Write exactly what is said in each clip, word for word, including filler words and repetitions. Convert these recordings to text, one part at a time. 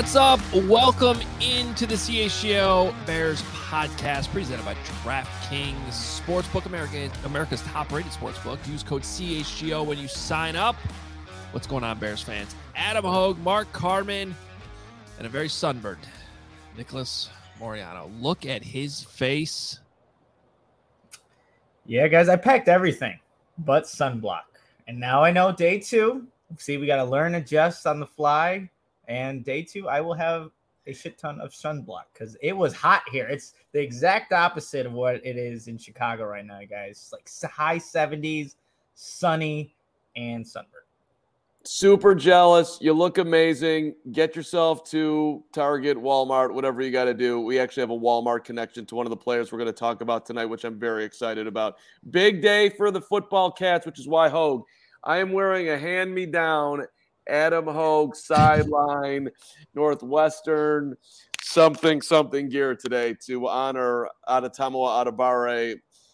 What's up? Welcome into the C H G O Bears podcast presented by DraftKings Sportsbook, America, America's top-rated sportsbook. Use code C H G O when you sign up. What's going on, Bears fans? Adam Hogue, Mark Carman, and a very sunburned Nicholas Moriano. Look at his face. Yeah, guys, I packed everything but sunblock. And now I know day two. See, we got to learn, adjust on the fly. And day two, I will have a shit ton of sunblock because it was hot here. It's the exact opposite of what it is in Chicago right now, guys. It's like high seventies, sunny, and sunburned. Super jealous. You look amazing. Get yourself to Target, Walmart, whatever you got to do. We actually have a Walmart connection to one of the players we're going to talk about tonight, which I'm very excited about. Big day for the football Cats, which is why, Hogue, I am wearing a hand-me-down Adam Hogue sideline Northwestern something something gear today to honor Adetomiwa Adebawore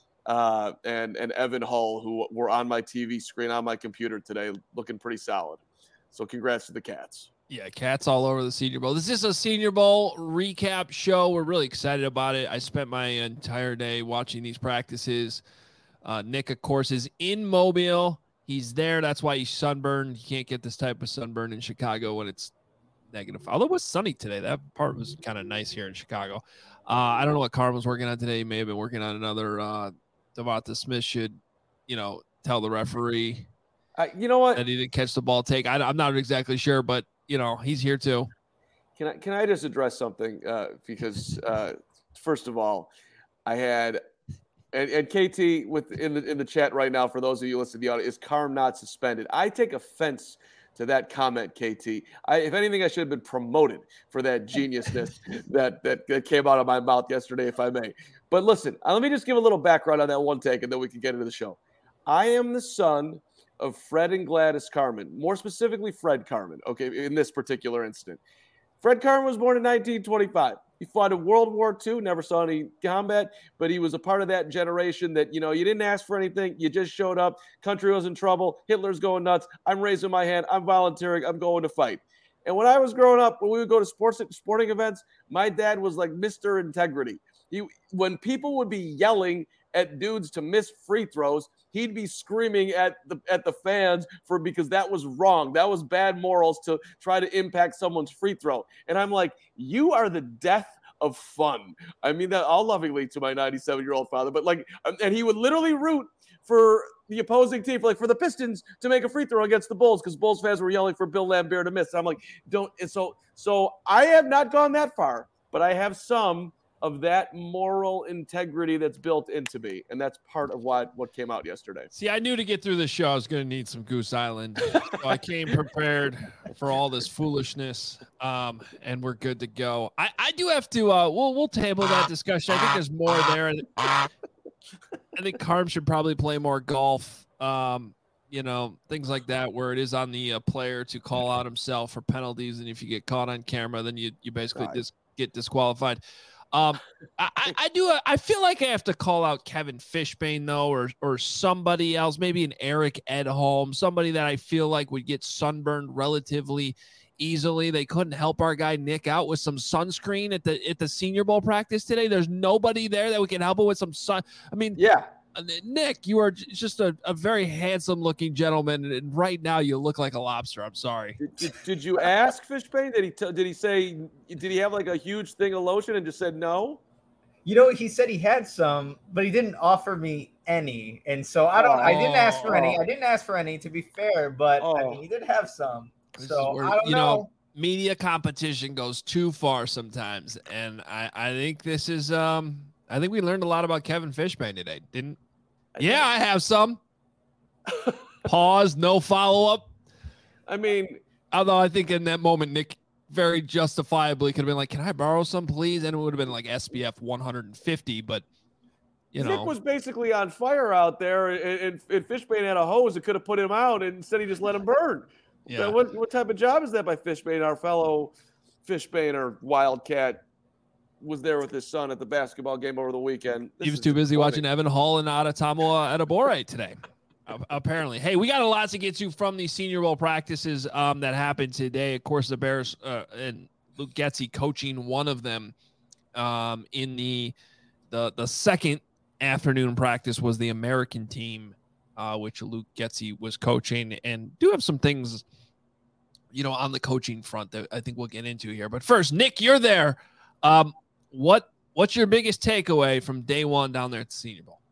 uh, and and Evan Hull, who were on my T V screen on my computer today, looking pretty solid. So congrats to the Cats. Yeah, Cats all over the Senior Bowl. This is a Senior Bowl recap show. We're really excited about it. I spent my entire day watching these practices. Uh, Nick, of course, is in Mobile. He's there. That's why he's sunburned. You can't get this type of sunburn in Chicago when it's negative. Although it was sunny today. That part was kind of nice here in Chicago. Uh, I don't know what Carm was working on today. He may have been working on another. Uh, Devonta Smith should, you know, tell the referee. Uh, you know what? That he didn't catch the ball take. I, I'm not exactly sure, but, you know, he's here too. Can I, can I just address something? Uh, because, uh, first of all, I had – And, and K T with in the in the chat right now, for those of you listening to the audio, is Carm not suspended? I take offense to that comment, K T. I, if anything, I should have been promoted for that geniusness that, that that came out of my mouth yesterday, if I may. But listen, uh, let me just give a little background on that one take, and then we can get into the show. I am the son of Fred and Gladys Carman, more specifically Fred Carman, okay, in this particular incident. Fred Carman was born in nineteen twenty-five. He fought in World War Two, never saw any combat, but he was a part of that generation that, you know, you didn't ask for anything. You just showed up. Country was in trouble. Hitler's going nuts. I'm raising my hand. I'm volunteering. I'm going to fight. And when I was growing up, when we would go to sports sporting events, my dad was like Mister Integrity. He, when people would be yelling at dudes to miss free throws, he'd be screaming at the at the fans for because that was wrong. That was bad morals to try to impact someone's free throw. And I'm like, you are the death of fun. I mean that all lovingly to my ninety-seven-year-old father, but like, and he would literally root for the opposing team, for like for the Pistons to make a free throw against the Bulls because Bulls fans were yelling for Bill Laimbeer to miss. And I'm like, don't. And so, so I have not gone that far, but I have some of that moral integrity that's built into me. And that's part of what, what came out yesterday. See, I knew to get through this show, I was going to need some Goose Island. So I came prepared for all this foolishness, um, and we're good to go. I, I do have to, uh, we'll, we'll table that discussion. I think there's more there. I think Carm should probably play more golf, um, you know, things like that, where it is on the uh, player to call out himself for penalties. And if you get caught on camera, then you, you basically Right. dis- get disqualified. Um, I, I do. I feel like I have to call out Kevin Fishbain though, or or somebody else, maybe an Eric Edholm, somebody that I feel like would get sunburned relatively easily. They couldn't help our guy Nick out with some sunscreen at the at the Senior Bowl practice today. There's nobody there that we can help him with some sun. I mean, Yeah. Nick, you are just a, a very handsome looking gentleman, and right now you look like a lobster. I'm sorry. Did, did, did you ask Fishbain? Did he t- did he say did he have like a huge thing of lotion and just said no? You know, he said he had some, but he didn't offer me any. And so I don't, I didn't ask for any. I didn't ask for any, to be fair, but Oh. I mean, he did have some. This So is where, I don't you know. know, media competition goes too far sometimes, and I, I think this is um I think we learned a lot about Kevin Fishbain today. Didn't? Yeah, I have some. Pause. No follow up. I mean, Although I think in that moment, Nick very justifiably could have been like, "Can I borrow some, please?" And it would have been like S P F one hundred fifty, but you Nick know, was basically on fire out there, and, and, and Fishbain had a hose that could have put him out, and instead he just let him burn. yeah. What what type of job is that by Fishbain? Our fellow Fishbain or Wildcat was there with his son at the basketball game over the weekend. This He was is too busy funny. watching Evan Hull and Adetomiwa Adebawore today. Uh, apparently. Hey, we got a lot to get to from the Senior Bowl practices um, that happened today. Of course, the Bears uh, and Luke Getsy coaching one of them um, in the, the, the second afternoon practice was the American team, uh, which Luke Getsy was coaching, and do have some things, you know, on the coaching front that I think we'll get into here. But first, Nick, you're there. Um, what what's your biggest takeaway from day one down there at the Senior Bowl?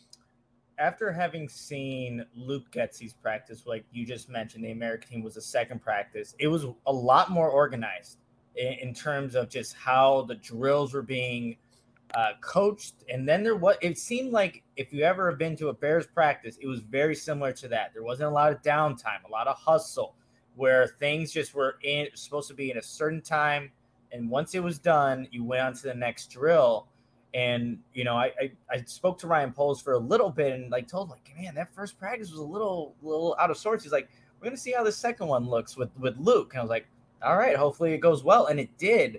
After having seen Luke Getsy's practice, like you just mentioned, the American team was the second practice. It was a lot more organized in, in terms of just how the drills were being uh, coached. And then there was, it seemed like if you ever have been to a Bears practice, it was very similar to that. There wasn't a lot of downtime, a lot of hustle, where things just were in supposed to be in a certain time. And once it was done, you went on to the next drill. And, you know, I, I, I spoke to Ryan Poles for a little bit and like told him, like, man, that first practice was a little, little out of sorts. He's like, we're going to see how the second one looks with, with Luke. And I was like, all right, hopefully it goes well. And it did.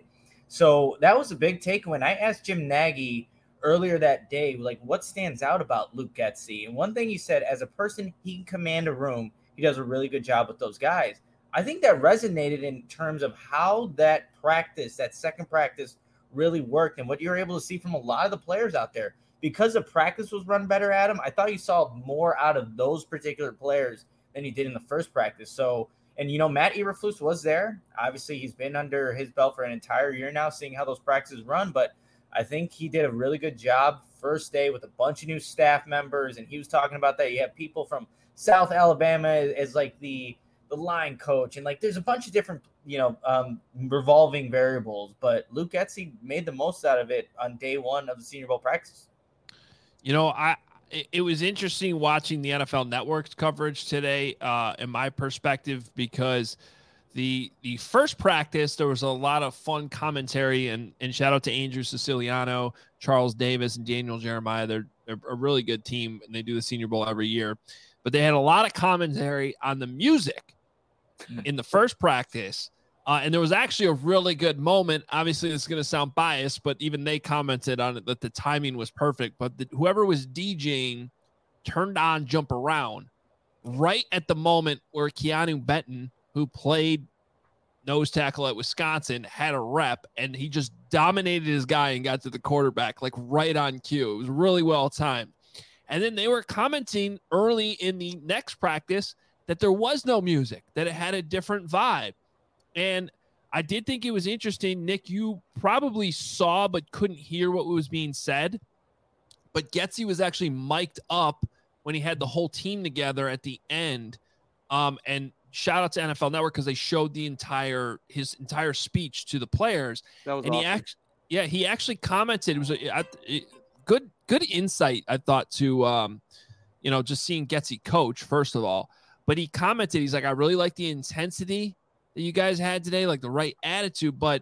So that was a big takeaway. And I asked Jim Nagy earlier that day, like, what stands out about Luke Getsy? And one thing he said, as a person, he can command a room. He does a really good job with those guys. I think that resonated in terms of how that practice, that second practice, really worked and what you're able to see from a lot of the players out there. Because the practice was run better, Adam, I thought you saw more out of those particular players than you did in the first practice. So, and, you know, Matt Eberflus was there. Obviously, he's been under his belt for an entire year now, seeing how those practices run. But I think he did a really good job first day with a bunch of new staff members. And he was talking about that. You have people from South Alabama as, as like the – the line coach, and like there's a bunch of different, you know, um, revolving variables, but Luke Getsy made the most out of it on day one of the Senior Bowl practice. You know, I it was interesting watching the N F L Network's coverage today, uh, in my perspective, because the the first practice there was a lot of fun commentary, and and shout out to Andrew Siciliano, Charles Davis, and Daniel Jeremiah. They're they're a really good team, and they do the Senior Bowl every year. But they had a lot of commentary on the music in the first practice. Uh, and there was actually a really good moment. Obviously, this is going to sound biased, but even they commented on it that the timing was perfect. But the, whoever was DJing turned on Jump Around right at the moment where Keanu Benton, who played nose tackle at Wisconsin, had a rep, and he just dominated his guy and got to the quarterback, like right on cue. It was really well timed. And then they were commenting early in the next practice that there was no music, that it had a different vibe. And I did think it was interesting. Nick, you probably saw but couldn't hear what was being said. But Getsy was actually mic'd up when he had the whole team together at the end. Um, and shout out to N F L Network because they showed the entire his entire speech to the players. That was and awesome. he actually, yeah, he actually commented. It was a, a, a good good insight, I thought, to um, you know, just seeing Getsy coach first of all. But he commented, he's like, I really like the intensity that you guys had today, like the right attitude. But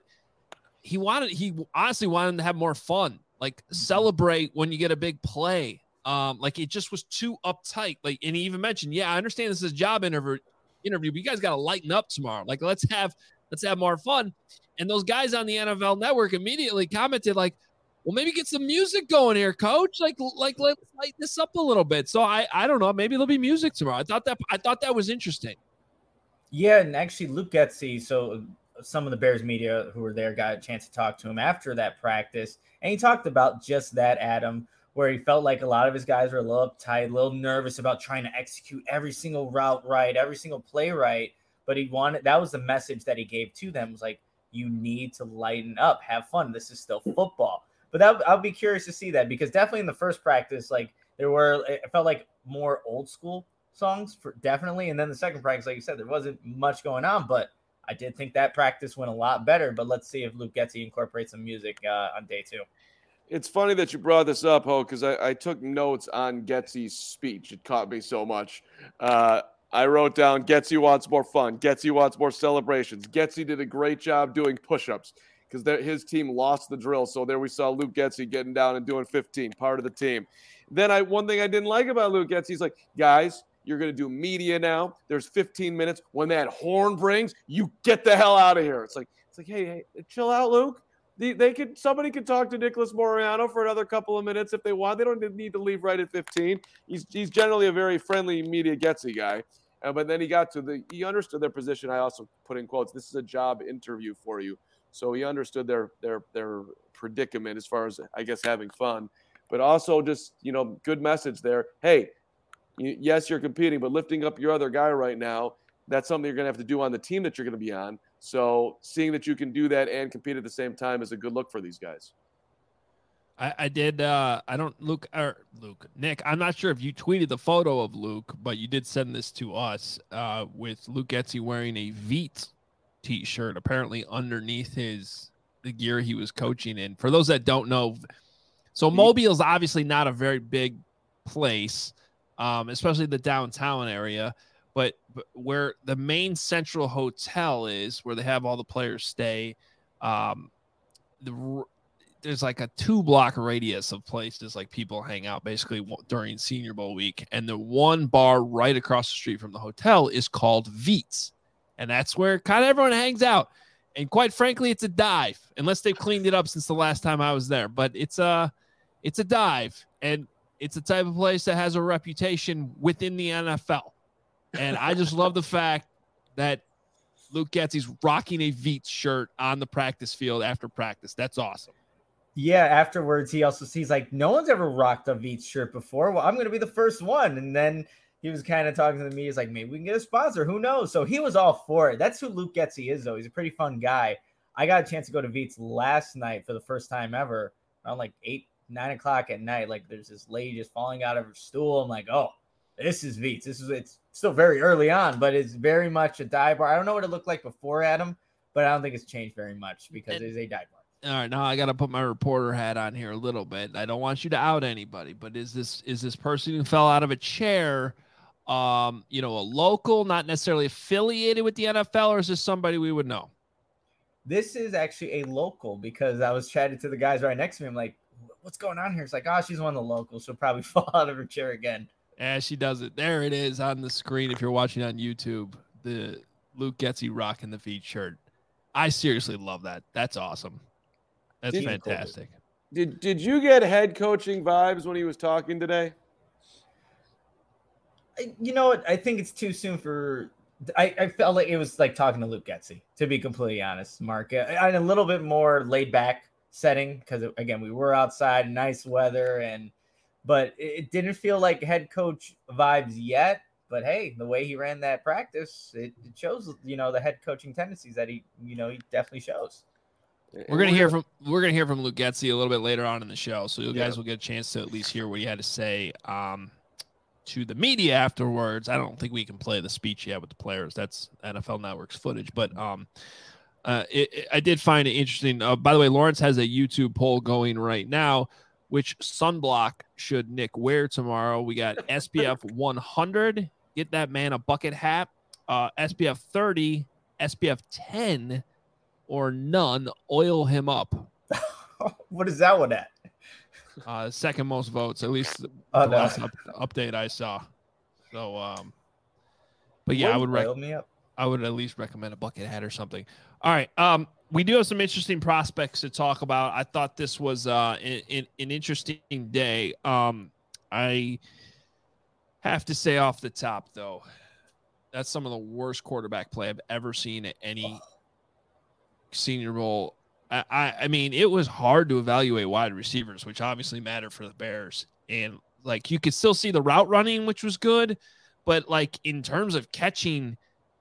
he wanted, he honestly wanted to have more fun, like celebrate when you get a big play. Um, like it just was too uptight. Like, and he even mentioned, yeah, I understand this is a job interview, interview, but you guys got to lighten up tomorrow. Like, let's have, let's have more fun. And those guys on the N F L Network immediately commented, like, well, maybe get some music going here, coach. Like, like let's lighten this up a little bit. So I, I don't know. Maybe there'll be music tomorrow. I thought that, I thought that was interesting. Yeah, and actually, Luke Getsy. So some of the Bears media who were there got a chance to talk to him after that practice, and he talked about just that, Adam, where he felt like a lot of his guys were a little uptight, a little nervous about trying to execute every single route right, every single play right. But he wanted, that was the message that he gave to them, was like, you need to lighten up, have fun. This is still football. But that, I'll be curious to see that, because definitely in the first practice, like there were, it felt like more old school songs for definitely. And then the second practice, like you said, there wasn't much going on, but I did think that practice went a lot better. But let's see if Luke Getsy incorporates some music uh, on day two. It's funny that you brought this up, Ho, because I, I took notes on Getsy's speech. It caught me so much. Uh, I wrote down, Getsy wants more fun. Getsy wants more celebrations. Getsy did a great job doing push-ups because his team lost the drill. So there we saw Luke Getsy getting down and doing fifteen, part of the team. Then I one thing I didn't like about Luke Getsy, he's like, guys, you're going to do media now. There's fifteen minutes. When that horn brings, you get the hell out of here. It's like, it's like, hey, hey, chill out, Luke. They, they could somebody could talk to Nicholas Moreano for another couple of minutes if they want. They don't need to leave right at fifteen. He's he's generally a very friendly media Getsy guy. Uh, but then he got to the, he understood their position. I also put in quotes, this is a job interview for you. So he understood their, their, their predicament as far as, I guess, having fun, but also just, you know, good message there. Hey, you, yes, you're competing, but lifting up your other guy right now, that's something you're going to have to do on the team that you're going to be on. So seeing that you can do that and compete at the same time is a good look for these guys. I, I did. Uh, I don't, Luke, or Luke, Nick, I'm not sure if you tweeted the photo of Luke, but you did send this to us uh, with Luke Getsy wearing a Veets t-shirt, apparently underneath his, the gear he was coaching in. For those that don't know, so Mobile's obviously not a very big place, um, especially the downtown area, but, but where the main central hotel is, where they have all the players stay, um, the there's like a two block radius of places like people hang out basically during Senior Bowl week. And the one bar right across the street from the hotel is called Veets. And that's where kind of everyone hangs out. And quite frankly, it's a dive, unless they've cleaned it up since the last time I was there. But it's a, it's a dive, and it's a type of place that has a reputation within the N F L. And I just love the fact that Luke Getsy's rocking a Veets shirt on the practice field after practice. That's awesome. Yeah, afterwards, he also sees like, no one's ever rocked a Veets shirt before. Well, I'm going to be the first one. And then he was kind of talking to me. He's like, maybe we can get a sponsor. Who knows? So he was all for it. That's who Luke Getsy is, though. He's a pretty fun guy. I got a chance to go to Veets last night for the first time ever, around like eight, nine o'clock at night. Like, there's this lady just falling out of her stool. I'm like, oh, this is Veets. This is, it's still very early on, but it's very much a dive bar. I don't know what it looked like before, Adam, but I don't think it's changed very much because it is a dive bar. All right, now I got to put my reporter hat on here a little bit. I don't want you to out anybody, but is this is this person who fell out of a chair, um, you know, a local, not necessarily affiliated with the N F L, or is this somebody we would know? This is actually a local, because I was chatting to the guys right next to me. I'm like, what's going on here? It's like, oh, she's one of the locals. She'll probably fall out of her chair again. Yeah, she does it. There it is on the screen. If you're watching on YouTube, the Luke Getsy rocking the Veets shirt. I seriously love that. That's awesome. That's did, fantastic. Did did you get head coaching vibes when he was talking today? You know what? I think it's too soon for. I, I felt like it was like talking to Luke Getsy, to be completely honest, Mark. In a little bit more laid back setting, because again, we were outside, nice weather, and but it didn't feel like head coach vibes yet. But hey, the way he ran that practice, it, it shows, you know, the head coaching tendencies that he, you know, he definitely shows. We're gonna hear from we're gonna hear from Luke Getsy a little bit later on in the show, so you guys yeah. will get a chance to at least hear what he had to say um, to the media afterwards. I don't think we can play the speech yet with the players. That's N F L Network's footage, but um, uh, it, it, I did find it interesting. Uh, by the way, Lawrence has a YouTube poll going right now. Which sunblock should Nick wear tomorrow? We got S P F one hundred. Get that man a bucket hat. Uh, S P F thirty, S P F ten. Or none, oil him up. What is that one at? Uh, second most votes, at least the oh, no. last up, update I saw. So, um, but yeah, I would rec- me up. I would at least recommend a bucket hat or something. All right, um, we do have some interesting prospects to talk about. I thought this was uh, in, in, an interesting day. Um, I have to say off the top, though, that's some of the worst quarterback play I've ever seen at any. Oh. Senior Bowl. I, I I mean, it was hard to evaluate wide receivers, which obviously matter for the Bears. And like, you could still see the route running, which was good, but like in terms of catching,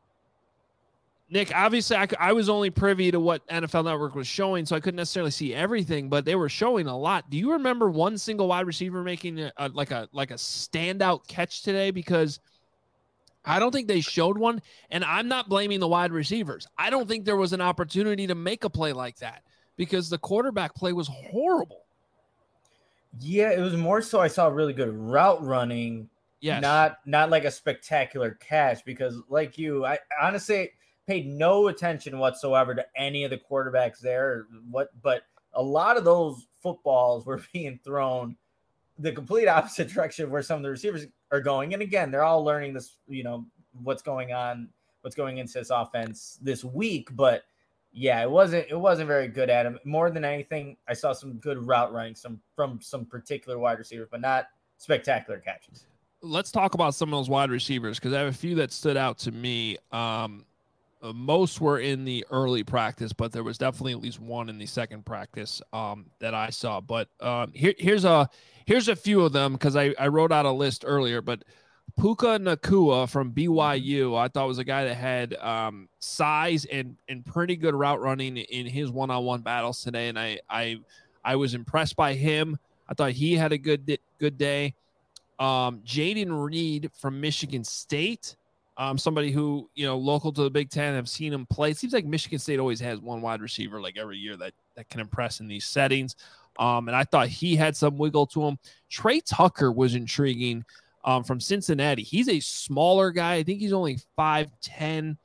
Nick, obviously I, I was only privy to what N F L Network was showing, so I couldn't necessarily see everything, but they were showing a lot. Do you remember one single wide receiver making a, a, like a like a standout catch today? Because I don't think they showed one, and I'm not blaming the wide receivers. I don't think there was an opportunity to make a play like that because the quarterback play was horrible. Yeah, it was more so I saw really good route running, yes. not not like a spectacular catch, because like you, I honestly paid no attention whatsoever to any of the quarterbacks there. What, but a lot of those footballs were being thrown the complete opposite direction where some of the receivers are going. And again, they're all learning this, you know, what's going on, what's going into this offense this week. But yeah, it wasn't, it wasn't very good at him. More than anything, I saw some good route running some from some particular wide receivers, but not spectacular catches. let's talk about some of those wide receivers because I have a few that stood out to me. Um, uh, most were in the early practice, but there was definitely at least one in the second practice um, that I saw. But um, here, here's a here's a few of them because I, I wrote out a list earlier. But Puka Nacua from B Y U, I thought was a guy that had um, size and and pretty good route running in his one-on-one battles today, and I I I was impressed by him. I thought he had a good good day. Um, Jaden Reed from Michigan State, um, somebody who, you know, local to the Big Ten, have seen him play. It seems like Michigan State always has one wide receiver like every year that, that can impress in these settings. Um, and I thought he had some wiggle to him. Trey Tucker was intriguing um, from Cincinnati. He's a smaller guy. I think he's only five ten,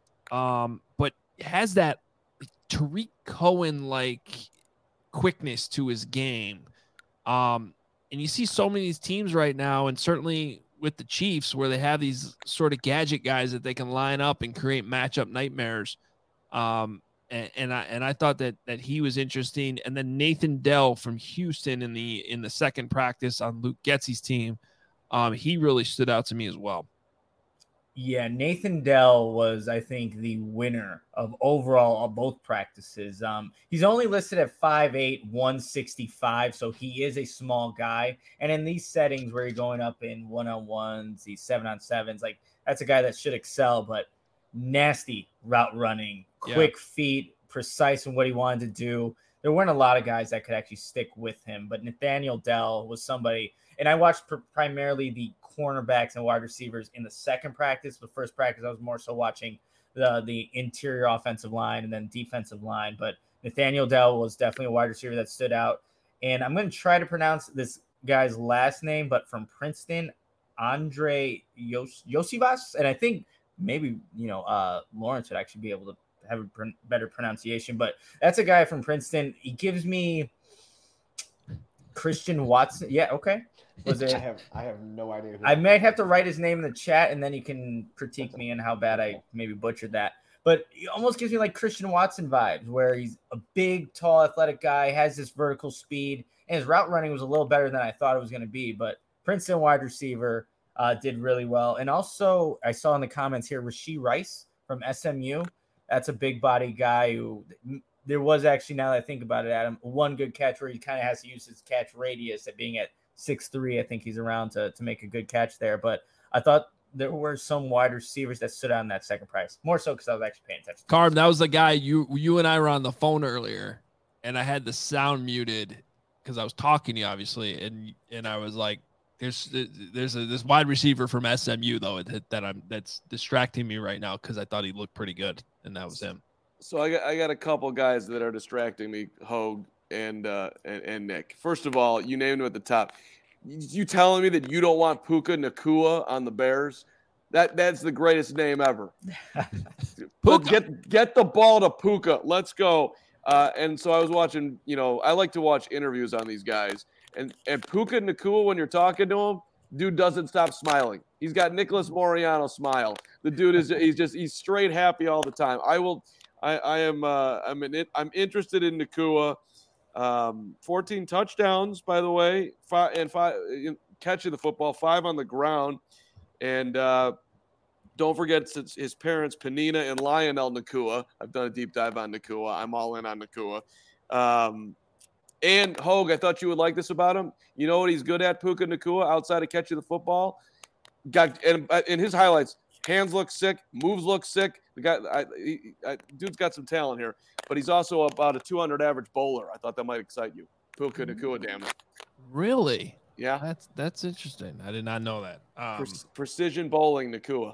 um, but has that Tariq Cohen-like quickness to his game. Um, And you see so many of these teams right now, and certainly with the Chiefs, where they have these sort of gadget guys that they can line up and create matchup nightmares. Um, and, and I and I thought that that he was interesting. And then Nathan Dell from Houston in the in the second practice on Luke Getsy's team, um, he really stood out to me as well. Yeah, Nathan Dell was, I think, the winner of overall of both practices. Um, he's only listed at five eight, one sixty-five, so he is a small guy. And in these settings where you're going up in one-on-ones, these seven-on-sevens, like that's a guy that should excel, but nasty route running, quick yeah. feet, precise in what he wanted to do. There weren't a lot of guys that could actually stick with him, but Nathaniel Dell was somebody, and I watched pr- primarily the cornerbacks and wide receivers in the second practice. The first practice, I was more so watching the the interior offensive line and then defensive line. But Nathaniel Dell was definitely a wide receiver that stood out. And I'm going to try to pronounce this guy's last name, but from Princeton, Andre Yos- Yosivas. And I think maybe, you know, uh, Lawrence would actually be able to have a pr- better pronunciation. But that's a guy from Princeton. He gives me Christian Watson. Yeah, okay. Was it? I have I have no idea. I might have to write his name in the chat, and then you can critique me and how bad I maybe butchered that. But it almost gives me like Christian Watson vibes, where he's a big, tall, athletic guy, has this vertical speed, and his route running was a little better than I thought it was going to be. But Princeton wide receiver uh, did really well. And also, I saw in the comments here, Rashee Rice from S M U. That's a big body guy who there was actually, now that I think about it, Adam, one good catch where he kind of has to use his catch radius at being at six three. I think he's around to, to make a good catch there. But I thought there were some wide receivers that stood out in that second price, more so because I was actually paying attention. Carm, that was the guy you you and I were on the phone earlier, and I had the sound muted because I was talking to you, obviously, and and I was like, "There's there's a, this wide receiver from S M U though that, that I'm that's distracting me right now because I thought he looked pretty good, and that was him." So I got I got a couple guys that are distracting me, Hogue and uh, and, and Nick. First of all, you named him at the top. You telling me that you don't want Puka Nacua on the Bears? That that's the greatest name ever. Puka. Get get the ball to Puka. Let's go. Uh, and so I was watching. You know, I like to watch interviews on these guys. And and Puka Nacua, when you're talking to him, dude doesn't stop smiling. He's got Nicholas Moriano smile. The dude is he's just he's straight happy all the time. I will. I I am uh, I'm in it. I'm interested in Nacua. Um, fourteen touchdowns, by the way, five and five catching the football, five on the ground, and uh, don't forget his parents, Panina and Lionel Nacua. I've done a deep dive on Nacua. I'm all in on Nacua. Um, and Hogue, I thought you would like this about him. You know what he's good at, Puka Nacua, outside of catching the football? Got and in his highlights, hands look sick, moves look sick. The guy, I, he, I, dude's got some talent here, but he's also about a two hundred average bowler. I thought that might excite you, Puka Nacua. Damn it! Really? Yeah, that's that's interesting. I did not know that. Um, Pre- precision bowling, Nacua.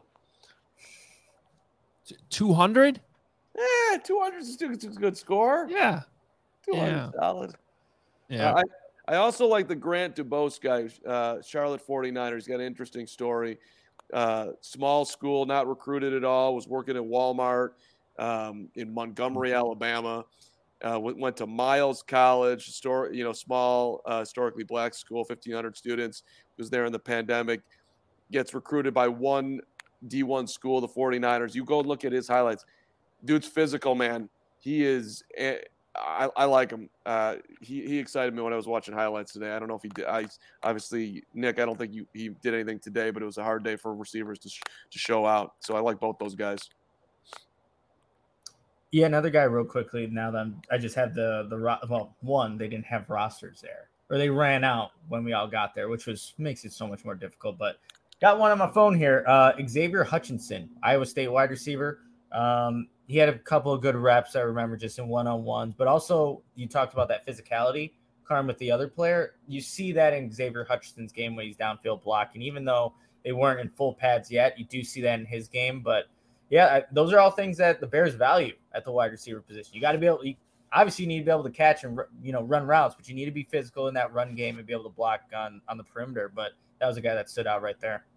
Two hundred? Yeah, two hundred is a good score. Yeah, two hundred yeah. solid. Yeah. Uh, I, I also like the Grant Dubose guy, uh, Charlotte forty-niners. Got an interesting story. Uh, small school, not recruited at all, was working at Walmart um, in Montgomery, Alabama. Uh, went, went to Miles College, store, you know, small, uh, historically black school, fifteen hundred students, was there in the pandemic, gets recruited by one D one school, the forty-niners. You go look at his highlights. Dude's physical, man. He is, I, I like him. Uh, he he excited me when I was watching highlights today. I don't know if he did. I obviously Nick. I don't think you, he did anything today, but it was a hard day for receivers to sh- to show out. So I like both those guys. Yeah, another guy real quickly. Now that I'm, I just had the the ro- well, one they didn't have rosters there, or they ran out when we all got there, which was makes it so much more difficult. But got one on my phone here. Uh, Xavier Hutchinson, Iowa State wide receiver. Um, he had a couple of good reps, I remember, just in one-on-ones. But also, you talked about that physicality, Carm, with the other player. You see that in Xavier Hutchinson's game when he's downfield blocking. Even though they weren't in full pads yet, you do see that in his game. But, yeah, I, those are all things that the Bears value at the wide receiver position. You got to be able – you obviously you need to be able to catch and, you know, run routes, but you need to be physical in that run game and be able to block on, on the perimeter. But that was a guy that stood out right there.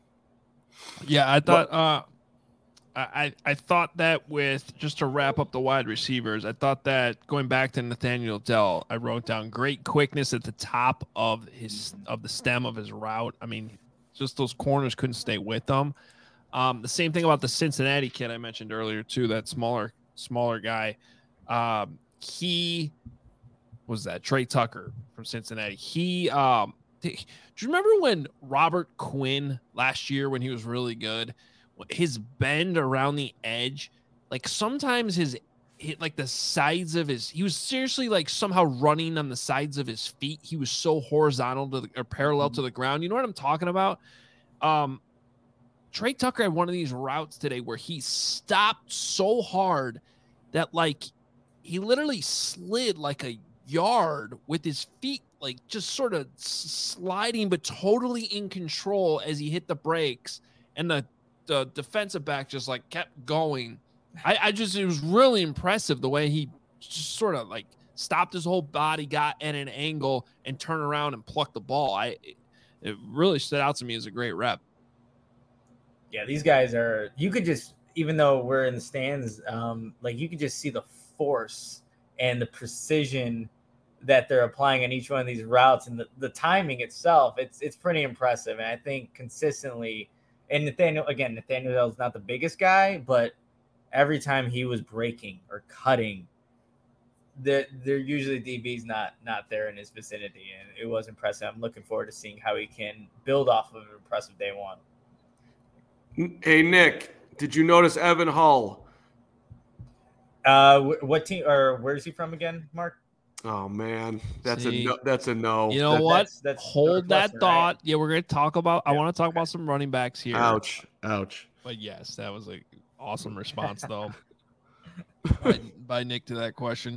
Yeah, I thought uh, – I, I thought that with just to wrap up the wide receivers, I thought that going back to Nathaniel Dell, I wrote down great quickness at the top of his of the stem of his route. I mean, just those corners couldn't stay with them. Um, the same thing about the Cincinnati kid I mentioned earlier too. That smaller smaller guy, um, he was that Trey Tucker from Cincinnati. He um, do you remember when Robert Quinn last year when he was really good? His bend around the edge, like sometimes his hit like the sides of his, he was seriously like somehow running on the sides of his feet. He was so horizontal to the, or parallel to the ground. You know what I'm talking about? Um, Trey Tucker had one of these routes today where he stopped so hard that like he literally slid like a yard with his feet, like just sort of sliding, but totally in control as he hit the brakes. And the the defensive back just like kept going. I, I just, it was really impressive the way he just sort of like stopped his whole body, got at an angle and turned around and plucked the ball. I, it really stood out to me as a great rep. Yeah, these guys are, you could just, even though we're in the stands, um, like you could just see the force and the precision that they're applying on each one of these routes and the, the timing itself. It's, it's pretty impressive. And I think consistently, and Nathaniel, again, Nathaniel is not the biggest guy, but every time he was breaking or cutting, they're, they're usually D B's not not there in his vicinity. And it was impressive. I'm looking forward to seeing how he can build off of an impressive day one. Hey, Nick, did you notice Evan Hull? Uh, what team or where is he from again, Mark? Oh man, that's See, a no, that's a no. You know That- what? that's- that's Hold that Northwestern, thought. right? Yeah, we're going to talk about, I Yeah. want to talk about some running backs here. Ouch, ouch. But yes, that was an awesome response though by, by Nick to that question.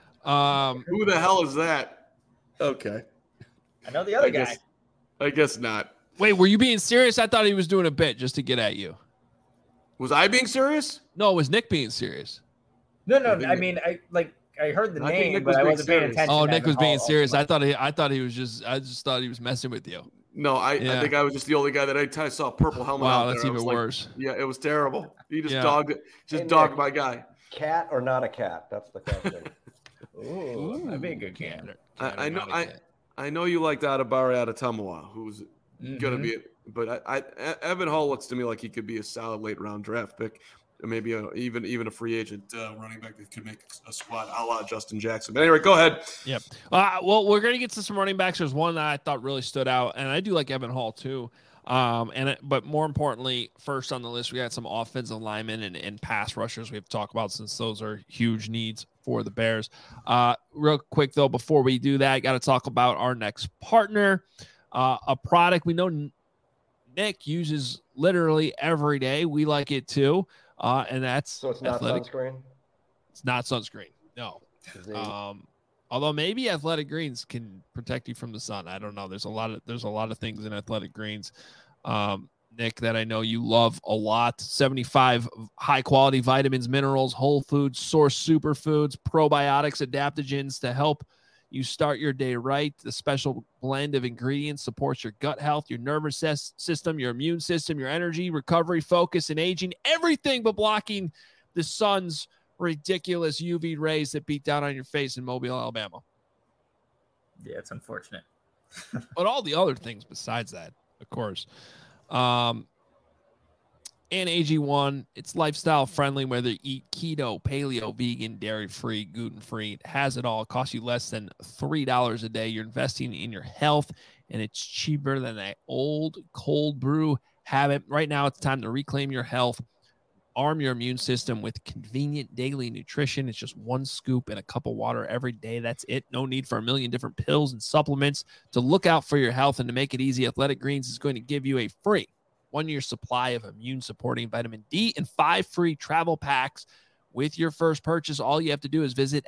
Um, Who the hell is that? Okay, I know the other I guy. guess, I guess not. wait, were you being serious? I thought he was doing a bit just to get at you. Was I being serious? No, it was Nick being serious. No, no, I think I Nick- mean, I like I heard the I think name, Nick but was I being wasn't paying serious. attention. Oh, to Nick Evan was being Hall serious. all I too thought he, I thought he was just, I just thought he was messing with you. No, I, Yeah. I think I was just the only guy that I, I saw a purple helmet. Wow, out that's there. I even was like, worse. Yeah, it was terrible. He just Yeah. dogged it. Just Hey, dogged Nick. my guy. Cat or not a cat? That's the question. much. Ooh, that'd be a good game. Cat- I- cat or I know- not a I- cat. I know you liked Adabari Adetomawa, who's gonna Mhm. be, but I, I, E- Evan Hall looks to me like he could be a solid late round draft pick, or maybe a, even even a free agent uh, running back that could make a squad a la Justin Jackson. But anyway, go ahead. Yep. Uh, well, we're going to get to some running backs. There's one that I thought really stood out, and I do like Evan Hall too. Um, and it, but more importantly, first on the list, we got some offensive linemen and, and pass rushers we have to talk about since those are huge needs for the Bears. Uh, real quick though, before we do that, got to talk about our next partner, uh, a product we know Nick uses literally every day. We like it too, uh, and that's So it's not Athletic. sunscreen? It's not sunscreen. No. The- Um, although maybe athletic greens can protect you from the sun. I don't know. There's a lot of there's a lot of things in athletic greens, um, Nick, that I know you love a lot. seventy-five high quality vitamins, minerals, whole foods, source superfoods, probiotics, adaptogens to help you start your day right. The special blend of ingredients supports your gut health, your nervous ses- system, your immune system, your energy, recovery, focus, and aging. Everything but blocking the sun's ridiculous U V rays that beat down on your face in Mobile, Alabama. Yeah, it's unfortunate. But all the other things besides that, of course. Um, and A G one. It's lifestyle friendly, whether you eat keto, paleo, vegan, dairy-free, gluten-free. It has it all. It costs you less than three dollars a day. You're investing in your health, and it's cheaper than that old cold brew habit. Right now, it's time to reclaim your health. Arm your immune system with convenient daily nutrition. It's just one scoop and a cup of water every day. That's it. No need for a million different pills and supplements. To look out for your health and to make it easy, Athletic Greens is going to give you a free one-year supply of immune-supporting vitamin D and five free travel packs with your first purchase. All you have to do is visit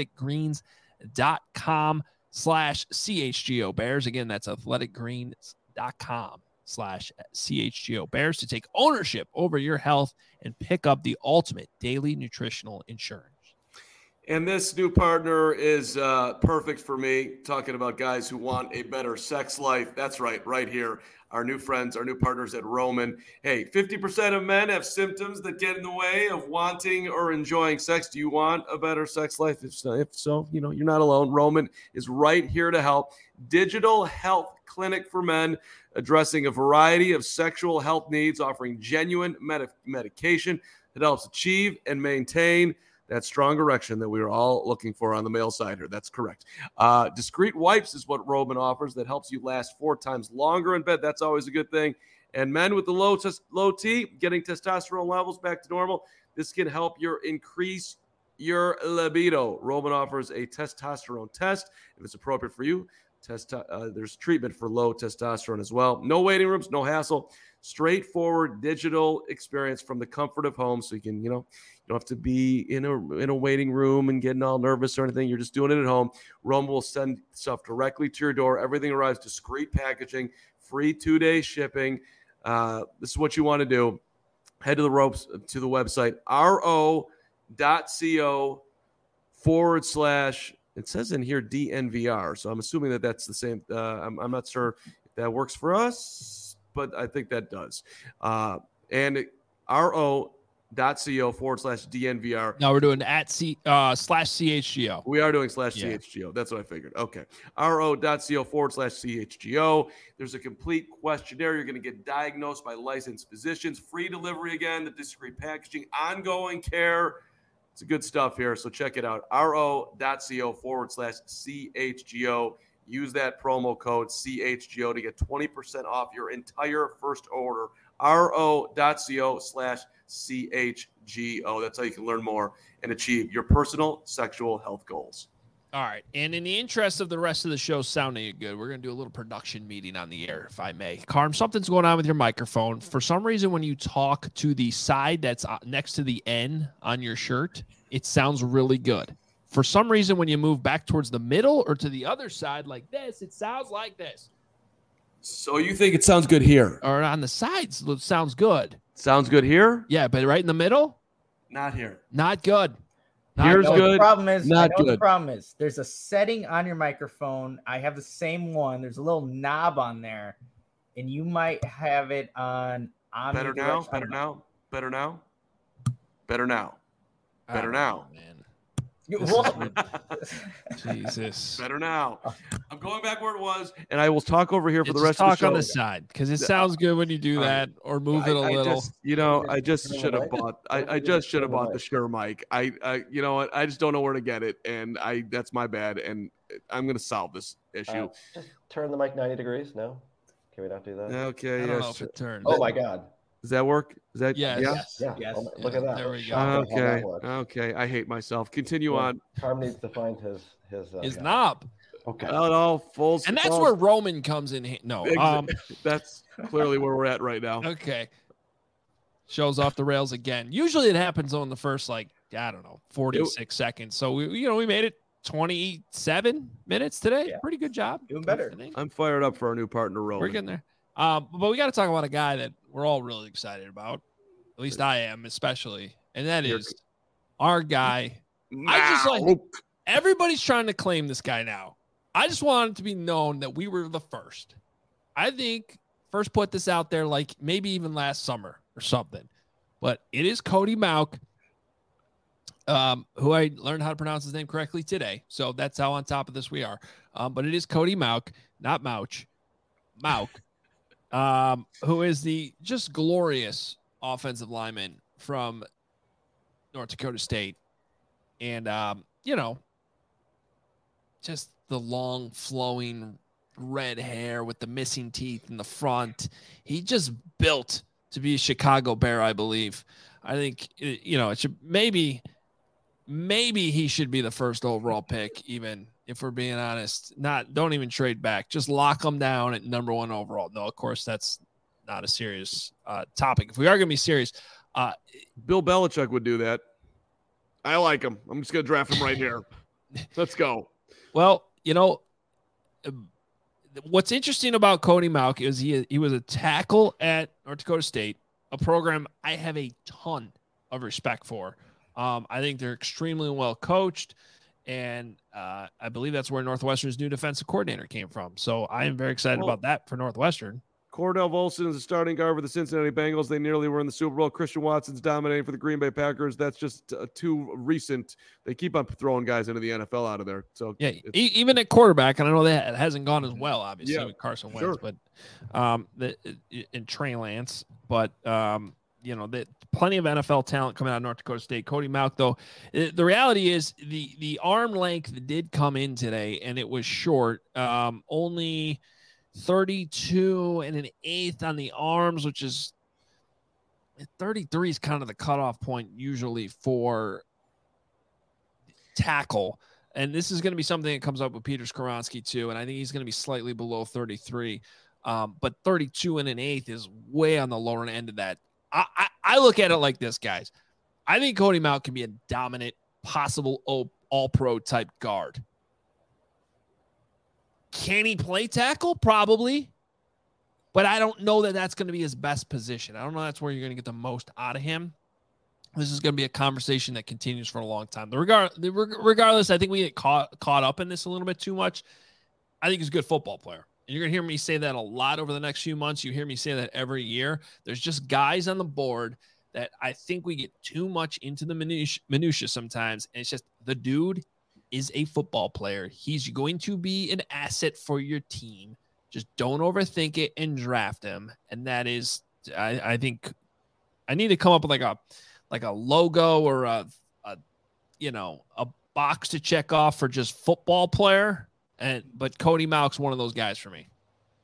athleticgreens.com slash CHGO Bears. Again, that's athleticgreens.com slash CHGO Bears to take ownership over your health and pick up the ultimate daily nutritional insurance. And this new partner is uh, perfect for me, talking about guys who want a better sex life. That's right, right here. Our new friends, our new partners at Roman. Hey, fifty percent of men have symptoms that get in the way of wanting or enjoying sex. Do you want a better sex life? If so, if so, you know, you're not alone. Roman is right here to help. Digital health clinic for men, addressing a variety of sexual health needs, offering genuine med- medication that helps achieve and maintain that strong erection that we are all looking for on the male side here. That's correct. Uh, discreet wipes is what Roman offers that helps you last four times longer in bed. That's always a good thing. And men with the low tes- low T, getting testosterone levels back to normal, this can help your increase your libido. Roman offers a testosterone test. If it's appropriate for you, test, uh, there's treatment for low testosterone as well. No waiting rooms, no hassle. Straightforward digital experience from the comfort of home, so you can, you know, you don't have to be in a in a waiting room and getting all nervous or anything. You're just doing it at home. Roman will send stuff directly to your door. Everything arrives discreet packaging, free two-day shipping. Uh, this is what you want to do. Head to the ropes to the website ro.co forward slash. It says in here D N V R, so I'm assuming that that's the same. Uh, I'm, I'm not sure if that works for us, but I think that does. Uh, and ro.co forward slash D N V R. Now we're doing at C uh, slash C H G O. We are doing slash Yeah. C H G O. That's what I figured. Okay. ro.co forward slash C H G O. There's a complete questionnaire. You're going to get diagnosed by licensed physicians. Free delivery again, the discreet packaging, ongoing care. It's good stuff here, so check it out. ro.co forward slash CHGO. Use that promo code C H G O to get twenty percent off your entire first order. ro.co slash CHGO. That's how you can learn more and achieve your personal sexual health goals. All right. And in the interest of the rest of the show sounding good, we're going to do a little production meeting on the air, if I may. Carm, something's going on with your microphone. For some reason, when you talk to the side that's next to the N on your shirt, it sounds really good. For some reason, when you move back towards the middle or to the other side like this, it sounds like this. So you think it sounds good here? Or on the sides, it sounds good. Sounds good here? Yeah, but right in the middle, Not here. not good. Not Here's I know what good, The problem is, not I know what the good. problem is. There's a setting on your microphone. I have the same one. There's a little knob on there, and you might have it on. Better now? omnidirectional. Better now? Better now? Better now? Better I don't now? know, man. You- This what? is Jesus. Better now. I'm going back where it was, and I will talk over here for Yeah, the just rest talk of the show. on the side because it sounds good when you do All right. that, or move I, it a I little. just, you know, I just Turn the should have mic. bought. I, Turn I the- just should have turn the bought the mic. Shure mic. I, I, you know what? I just don't know where to get it, and I that's my bad. And I'm gonna solve this issue. Uh, just turn the mic ninety degrees. No, can we not do that? Okay. I don't know Yes. if it turns. Oh my God! Does that work? Is that? Yes. Yeah. Yes. Yeah. Yes. Oh my- look Yeah, at that. there we go. Shocked at how Okay. that works. Okay. I hate myself. Continue Yeah. on. Carm needs to find his his. Uh, His yeah. knob, Okay. Oh, no, full. and that's full- where Roman comes in. ha- No, Exa- um, That's clearly where we're at right now. okay. Shows off the rails again. Usually it happens on the first, like, I don't know, forty-six seconds. So we, you know, we made it twenty-seven minutes today. Yeah. Pretty good job. Doing better. I think. I'm fired up for our new partner, Roman. We're getting there. Um, but we got to talk about a guy that we're all really excited about. At least I am, especially, and that You're- is our guy. I just like- Now. Everybody's trying to claim this guy now. I just want it to be known that we were the first. I think first put this out there, like maybe even last summer or something. But it is Cody Mauch, um, who I learned how to pronounce his name correctly today. So that's how on top of this we are. Um, but it is Cody Mauch, not Mauch, Mauch, um, who is the just glorious offensive lineman from North Dakota State. And, um, you know, just the long flowing red hair with the missing teeth in the front. He just built to be a Chicago Bear, I believe. I think, you know, it should maybe, maybe he should be the first overall pick, even if we're being honest. Not, don't even trade back. Just lock him down at number one overall. No, of course, that's not a serious uh, topic. If we are going to be serious, uh, Bill Belichick would do that. I like him. I'm just going to draft him right here. Let's go. Well, you know, what's interesting about Cody Mauch is he he was a tackle at North Dakota State, a program I have a ton of respect for. Um, I think they're extremely well coached, and uh, I believe that's where Northwestern's new defensive coordinator came from. So I am very excited well, about that for Northwestern. Cordell Volson is the starting guard for the Cincinnati Bengals. They nearly were in the Super Bowl. Christian Watson's dominating for the Green Bay Packers. That's just uh, too recent. They keep on throwing guys into the N F L out of there. So yeah, e- even at quarterback, and I know that it hasn't gone as well, obviously, yeah, with Carson Wentz, sure. but um, the, and Trey Lance, but um, you know, the, plenty of N F L talent coming out of North Dakota State. Cody Mauch, though, the reality is the the arm length did come in today, and it was short. Um, only thirty-two and an eighth on the arms, which is thirty-three is kind of the cutoff point usually for tackle. And this is going to be something that comes up with Peter Skoronski too. And I think he's going to be slightly below thirty-three. Um, but thirty-two and an eighth is way on the lower end of that. I, I, I look at it like this, guys. I think Cody Mauch can be a dominant, possible all-pro type guard. Can he play tackle? Probably. But I don't know that that's going to be his best position. I don't know that's where you're going to get the most out of him. This is going to be a conversation that continues for a long time. The regard, the, regardless, I think we get caught, caught up in this a little bit too much. I think he's a good football player. And you're going to hear me say that a lot over the next few months. You hear me say that every year. There's just guys on the board that I think we get too much into the minutia, minutia sometimes. And it's just the dude is a football player. He's going to be an asset for your team. Just don't overthink it and draft him. And that is, I, I think I need to come up with like a, like a logo or a, a, you know, a box to check off for just football player. And, but Cody Mauch's one of those guys for me.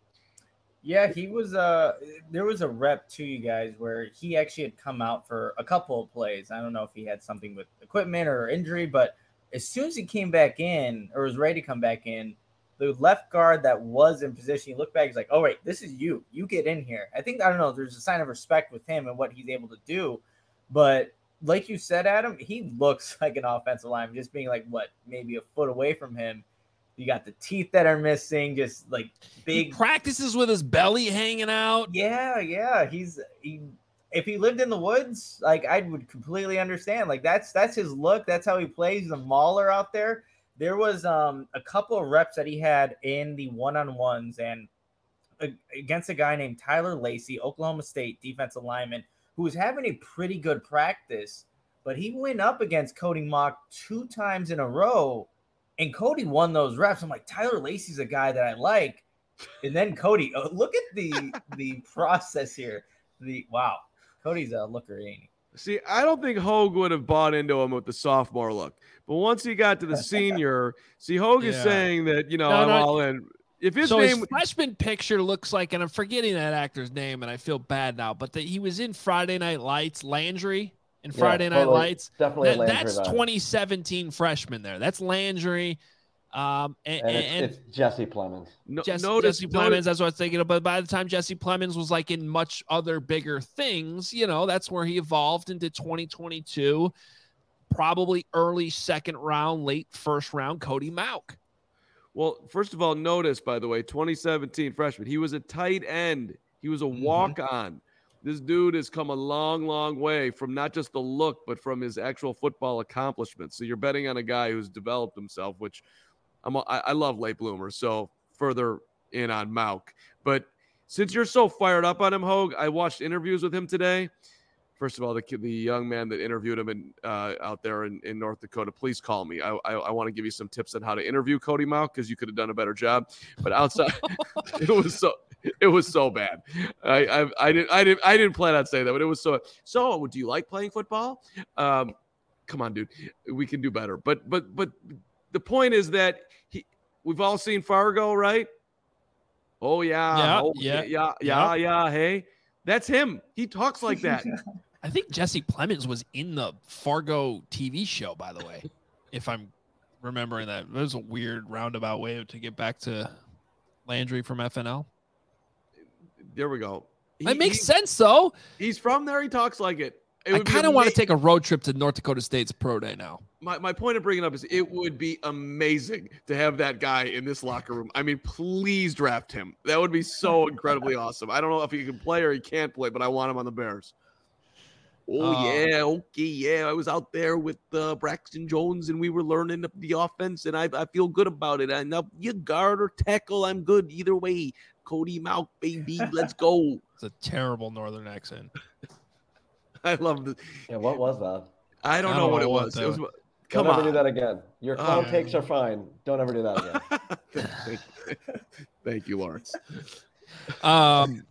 Yeah, he was, uh, there was a rep to you guys where he actually had come out for a couple of plays. I don't know if he had something with equipment or injury, but as soon as he came back in or was ready to come back in, the left guard that was in position, he looked back, he's like, oh, wait, this is you. You get in here. I think, I don't know, there's a sign of respect with him and what he's able to do. But like you said, Adam, he looks like an offensive lineman, just being like, what, maybe a foot away from him. You got the teeth that are missing, just like big. He practices with his belly hanging out. Yeah, yeah. He's he. If he lived in the woods, like I would completely understand. Like that's that's his look. That's how he plays. He's a mauler out there. There was um a couple of reps that he had in the one-on-ones and uh, against a guy named Tyler Lacey, Oklahoma State defensive lineman, who was having a pretty good practice, but he went up against Cody Mauch two times in a row, and Cody won those reps. I'm like, Tyler Lacey's a guy that I like, and then Cody. Oh, look at the the process here. The wow. Cody's a looker, ain't he? See, I don't think Hogue would have bought into him with the sophomore look. But once he got to the senior, see, Hogue yeah. is saying that, you know, no, I'm no, all in. If his so name his freshman picture looks like, and I'm forgetting that actor's name, and I feel bad now, but the, he was in Friday Night Lights, Landry in Friday yeah, Night totally, Lights. Definitely that, Landry That's vibe. twenty seventeen freshman there. That's Landry. Um, and, and, it's, and it's Jesse Plemons. No, Jesse, notice, Jesse Plemons, notice. that's what I was thinking of. But by the time Jesse Plemons was like in much other bigger things, you know, that's where he evolved into twenty twenty-two, probably early second round, late first round, Cody Mauch. Well, first of all, notice, by the way, twenty seventeen freshman, he was a tight end. He was a walk-on. Mm-hmm. This dude has come a long, long way from not just the look, but from his actual football accomplishments. So you're betting on a guy who's developed himself, which I'm, I, I love late bloomers, so further in on Mauch. But since you're so fired up on him, Hogue, I watched interviews with him today. First of all, the the young man that interviewed him in, uh, out there in, in North Dakota, please call me. I, I, I want to give you some tips on how to interview Cody Mauch because you could have done a better job. But outside, it was so It was so bad. I, I I didn't I didn't I didn't plan on saying that, but it was so. So, do you like playing football? Um, come on, dude, we can do better. But but but the point is that he. We've all seen Fargo, right? Oh yeah, Yeah, oh, yeah, yeah, yeah, yeah, yeah. Hey, that's him. He talks like that. I think Jesse Plemons was in the Fargo T V show, by the way, if I'm remembering that. It was a weird roundabout way to get back to Landry from F N L. There we go. He, It makes he, sense, though. He's from there. He talks like it. It I kind of want to take a road trip to North Dakota State's pro day now. My my point of bringing it up is it would be amazing to have that guy in this locker room. I mean, please draft him. That would be so incredibly awesome. I don't know if he can play or he can't play, but I want him on the Bears. Oh, Uh, yeah. Okay, yeah. I was out there with uh, Braxton Jones, and we were learning the offense, and I, I feel good about it. And now you guard or tackle, I'm good either way. Cody Mount, baby, let's go. It's a terrible northern accent. I love this. Yeah, what was that? I don't I know don't what know it what was. that It was was. come Don't on. ever do that again. Your clown Uh, takes are fine. Don't ever do that again. Thank, thank you, Lawrence. Um,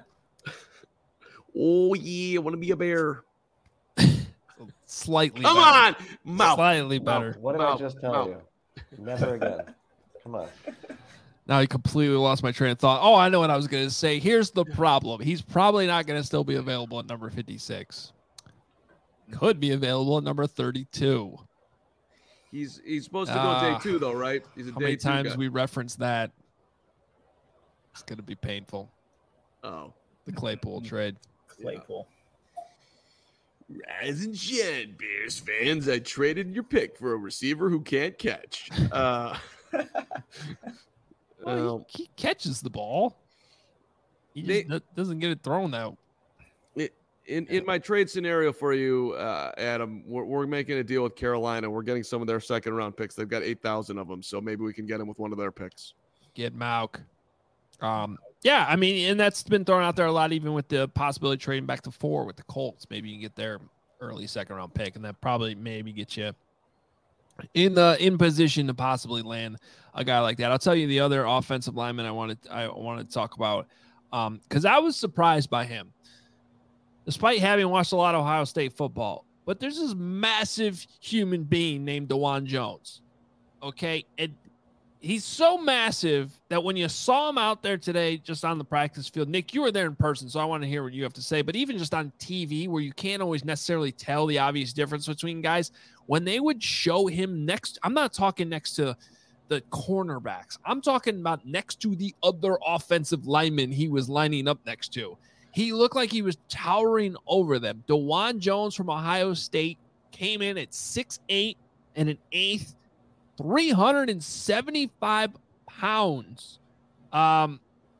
Oh, yeah. I want to be a bear. slightly Come better. on. Mouth. Slightly Mouth. better. What did Mouth, I just tell mouth. you? Never again. Come on. Now I completely lost my train of thought. Oh, I know what I was going to say. Here's the problem. He's probably not going to still be available at number fifty-six. Could be available at number thirty-two. He's he's supposed to go Ah. day two, though, right? He's a How day many two times guy. we reference that? It's going to be painful. Oh. The Claypool trade. Claypool. Rise and shine, Bears fans. I traded your pick for a receiver who can't catch. Uh, Well, um, he, he catches the ball. He They- just do- doesn't get it thrown out. in, in my trade scenario for you, uh, Adam, we're, we're making a deal with Carolina. We're getting some of their second round picks. They've got eight thousand of them, so maybe we can get them with one of their picks. Get Mauk. Um, yeah, I mean, and that's been thrown out there a lot, even with the possibility of trading back to four with the Colts. Maybe you can get their early second round pick, and that probably maybe get you in the in position to possibly land a guy like that. I'll tell you the other offensive lineman I wanted I wanted to talk about, um, because I was surprised by him, despite having watched a lot of Ohio State football. But there's this massive human being named DeJuan Jones. Okay, and he's so massive that when you saw him out there today, just on the practice field, Nick, you were there in person, so I want to hear what you have to say. But even just on T V, where you can't always necessarily tell the obvious difference between guys, when they would show him next, I'm not talking next to the cornerbacks. I'm talking about next to the other offensive lineman he was lining up next to. He looked like he was towering over them. DeJuan Jones from Ohio State came in at six eight and an eighth, three hundred seventy-five pounds. Um,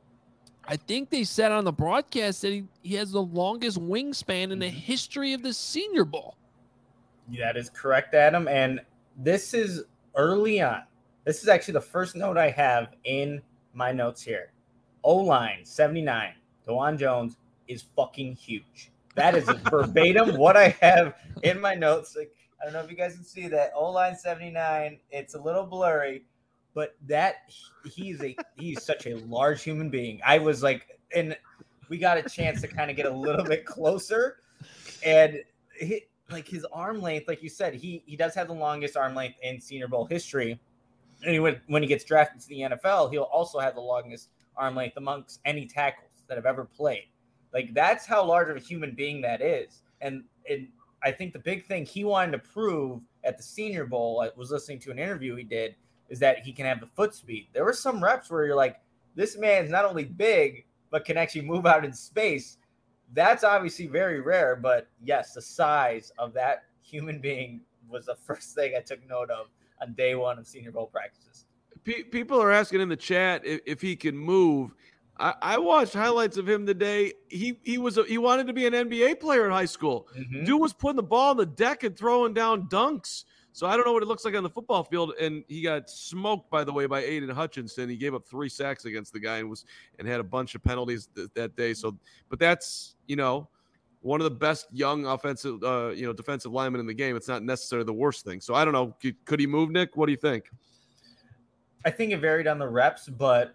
I think they said on the broadcast that he, he has the longest wingspan in the history of the Senior Bowl. That is correct, Adam. And this is early on. This is actually the first note I have in my notes here. O-line, seventy-nine. DeJuan Jones is fucking huge. That is verbatim what I have in my notes. Like, I don't know if you guys can see that. O-line seventy-nine. It's a little blurry, but that he's a he's such a large human being. I was like, and we got a chance to kind of get a little bit closer, and he, like his arm length, like you said, he he does have the longest arm length in Senior Bowl history. And he would, when he gets drafted to the N F L, he'll also have the longest arm length amongst any tackles that have ever played. Like, that's how large of a human being that is. And and I think the big thing he wanted to prove at the Senior Bowl, I was listening to an interview he did, is that he can have the foot speed. There were some reps where you're like, this man's not only big, but can actually move out in space. That's obviously very rare, but yes, the size of that human being was the first thing I took note of on day one of Senior Bowl practices. Pe- people are asking in the chat if, if he can move. I, I watched highlights of him today. He he was a, he wanted to be an N B A player in high school. Mm-hmm. Dude was putting the ball on the deck and throwing down dunks. So I don't know what it looks like on the football field. And he got smoked, by the way, by Aiden Hutchinson. He gave up three sacks against the guy and was and had a bunch of penalties th- that day. So, but that's, you know, one of the best young offensive, uh, you know, defensive linemen in the game. It's not necessarily the worst thing. So I don't know. Could, could he move, Nick? What do you think? I think it varied on the reps, but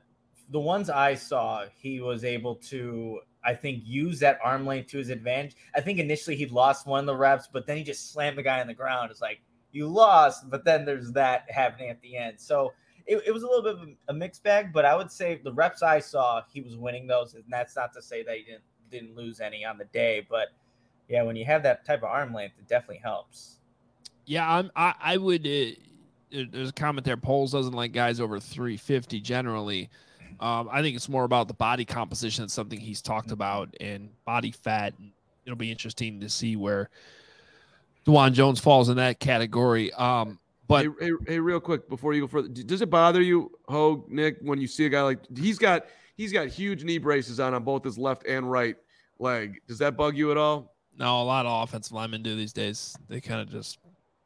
the ones I saw, he was able to, I think, use that arm length to his advantage. I think initially he lost one of the reps, but then he just slammed the guy on the ground. It's like, you lost, but then there's that happening at the end. So it, it was a little bit of a mixed bag, but I would say the reps I saw, he was winning those. And that's not to say that he didn't, didn't lose any on the day. But, yeah, when you have that type of arm length, it definitely helps. Yeah, I'm, I, I would uh, – there's a comment there. Poles doesn't like guys over three fifty generally. Um, I think it's more about the body composition. It's something he's talked about, and body fat. And it'll be interesting to see where DeJuan Jones falls in that category. Um, but hey, hey, hey, real quick before you go further, does it bother you, Hogue, Nick, when you see a guy like he's got he's got huge knee braces on on both his left and right leg? Does that bug you at all? No, a lot of offensive linemen do these days. They kind of just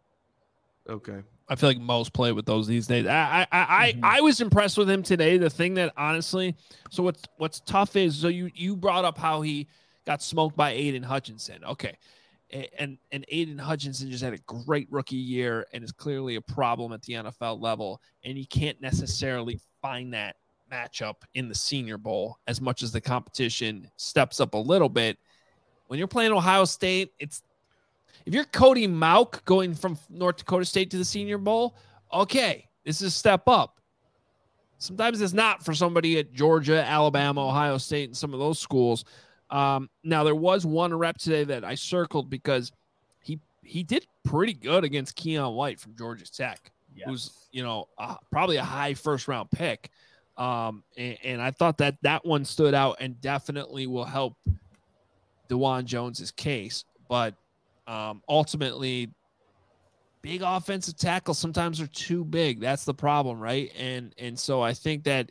okay. I feel like most play with those these days. I I I, mm-hmm. I was impressed with him today. The thing that honestly, so what's what's tough is so you you brought up how he got smoked by Aiden Hutchinson. Okay, and and Aiden Hutchinson just had a great rookie year and is clearly a problem at the N F L level. And you can't necessarily find that matchup in the Senior Bowl as much as the competition steps up a little bit. When you're playing Ohio State, it's if you're Cody Mauch going from North Dakota State to the Senior Bowl, okay, this is a step up. Sometimes it's not for somebody at Georgia, Alabama, Ohio State, and some of those schools. Um, now, there was one rep today that I circled because he he did pretty good against Keon White from Georgia Tech, yes. who's, you know, uh, probably a high first-round pick. Um, and, and I thought that that one stood out and definitely will help DeJuan Jones's case. But Um, ultimately, big offensive tackles sometimes are too big. That's the problem, right? And and so I think that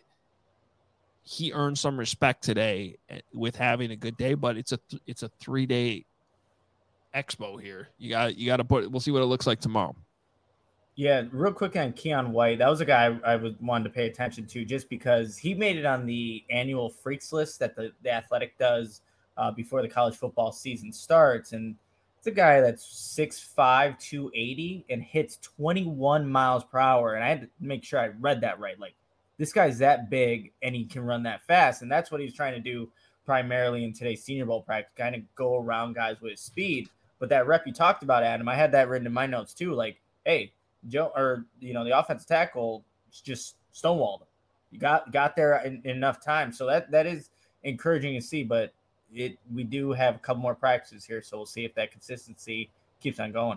he earned some respect today with having a good day. But it's a th- it's a three day expo here. You got you got to put. We'll see what it looks like tomorrow. Yeah, real quick on Keon White. That was a guy I, I was wanted to pay attention to just because he made it on the annual freaks list that the, the Athletic does uh, before the college football season starts, and it's a guy that's six five, two eighty and hits twenty-one miles per hour. And I had to make sure I read that right. Like, this guy's that big and he can run that fast. And that's what he's trying to do primarily in today's Senior Bowl practice, kind of go around guys with his speed. But that rep you talked about, Adam, I had that written in my notes too. Like, hey, Joe, or, you know, the offensive tackle just stonewalled him. You got, got there in, in enough time. So that, that is encouraging to see, but It we do have a couple more practices here, so we'll see if that consistency keeps on going.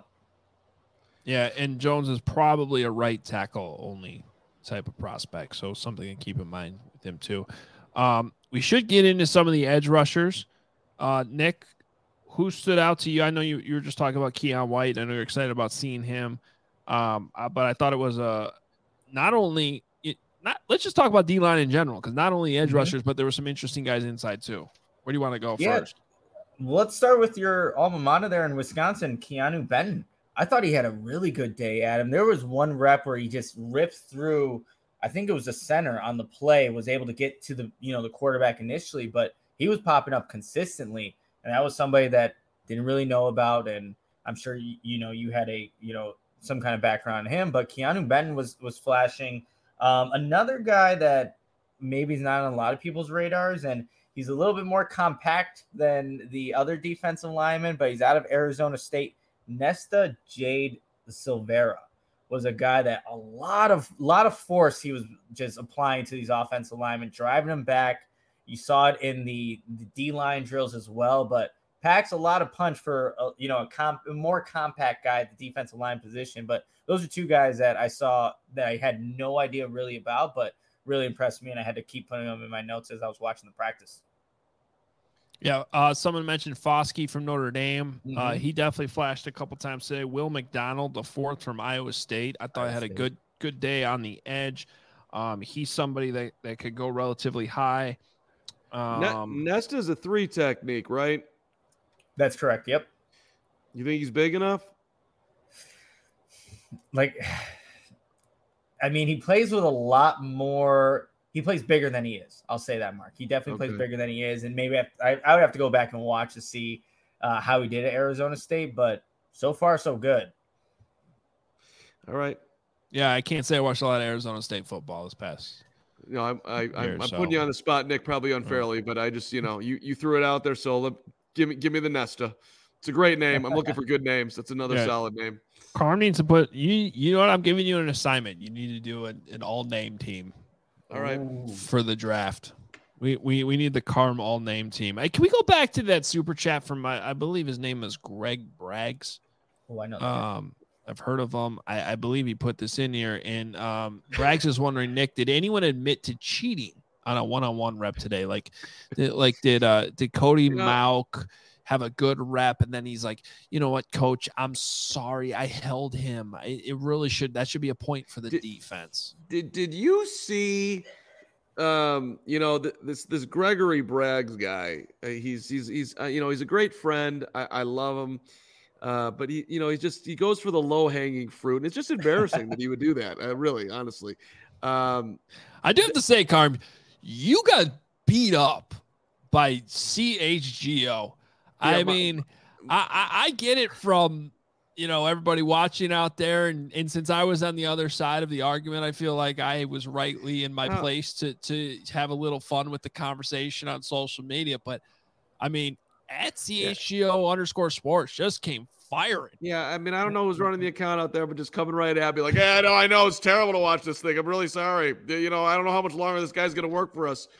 Yeah, and Jones is probably a right tackle only type of prospect, so something to keep in mind with him too. Um, we should get into some of the edge rushers. Uh, Nick, who stood out to you? I know you, you were just talking about Keon White. I know you're excited about seeing him, um, uh, but I thought it was a not only it, not. Let's just talk about D-line in general, because not only edge mm-hmm. rushers, but there were some interesting guys inside too. Where do you want to go yeah. first? Let's start with your alma mater there in Wisconsin, Keanu Benton. I thought he had a really good day, Adam. There was one rep where he just ripped through, I think it was the center on the play, was able to get to the, you know, the quarterback initially, but he was popping up consistently. And that was somebody that didn't really know about. And I'm sure, you, you know, you had a, you know, some kind of background on him, but Keanu Benton was, was flashing. Um, another guy that maybe is not on a lot of people's radars, and he's a little bit more compact than the other defensive linemen, but he's out of Arizona State. Nesta Jade Silvera was a guy that a lot of lot of force he was just applying to these offensive linemen, driving them back. You saw it in the, the D-line drills as well, but packs a lot of punch for a, you know a, comp, a more compact guy at the defensive line position. But those are two guys that I saw that I had no idea really about, but really impressed me, and I had to keep putting them in my notes as I was watching the practice. Yeah, uh, someone mentioned Foskey from Notre Dame. Mm-hmm. Uh, he definitely flashed a couple times today. Will McDonald, the fourth from Iowa State. I thought I had a good good day on the edge. Um, he's somebody that, that could go relatively high. Um, Nesta is a three technique, right? That's correct. Yep. You think he's big enough? Like, I mean, he plays with a lot more. He plays bigger than he is. I'll say that, Mark. He definitely okay. plays bigger than he is. And maybe I, I, I would have to go back and watch to see uh, how he did at Arizona State. But so far, so good. All right. Yeah, I can't say I watched a lot of Arizona State football this past you know, I'm I, I'm, Here, I'm so- putting you on the spot, Nick, probably unfairly, but I just, you know, you you threw it out there, so let, give me give me the Nesta. It's a great name. I'm looking for good names. That's another Yeah. solid name. Carm needs to put you. You know what? I'm giving you an assignment. You need to do an, an all name team All right. for the draft. We we we need the Carm all name team. Hey, can we go back to that super chat from my? I believe his name is Greg Braggs. Oh, I know. that. Um, I've heard of him. I, I believe he put this in here. And um, Braggs is wondering, Nick, did anyone admit to cheating on a one-on-one rep today? Like, did, like did uh did Cody Yeah. Mauk have a good rep, and then he's like, you know what, coach, I'm sorry, I held him. I, it really should. That should be a point for the Did- defense. Did did you see, um, you know, th- this this Gregory Braggs guy? Uh, he's he's he's uh, you know, he's a great friend. I, I love him, uh, but he you know he just he goes for the low hanging fruit, and it's just embarrassing that he would do that. Uh, really, honestly, um, I do have to say, Carm, you got beat up by C H G O. I Yeah, my- mean, I, I I get it from, you know, everybody watching out there, and, and since I was on the other side of the argument, I feel like I was rightly in my Oh. place to to have a little fun with the conversation on social media. But I mean, at C H G O underscore sports just came firing. yeah. I mean, I don't know who's running the account out there, but just coming right at me like, yeah, no, I know it's terrible to watch this thing. I'm really sorry. You know, I don't know how much longer this guy's gonna work for us.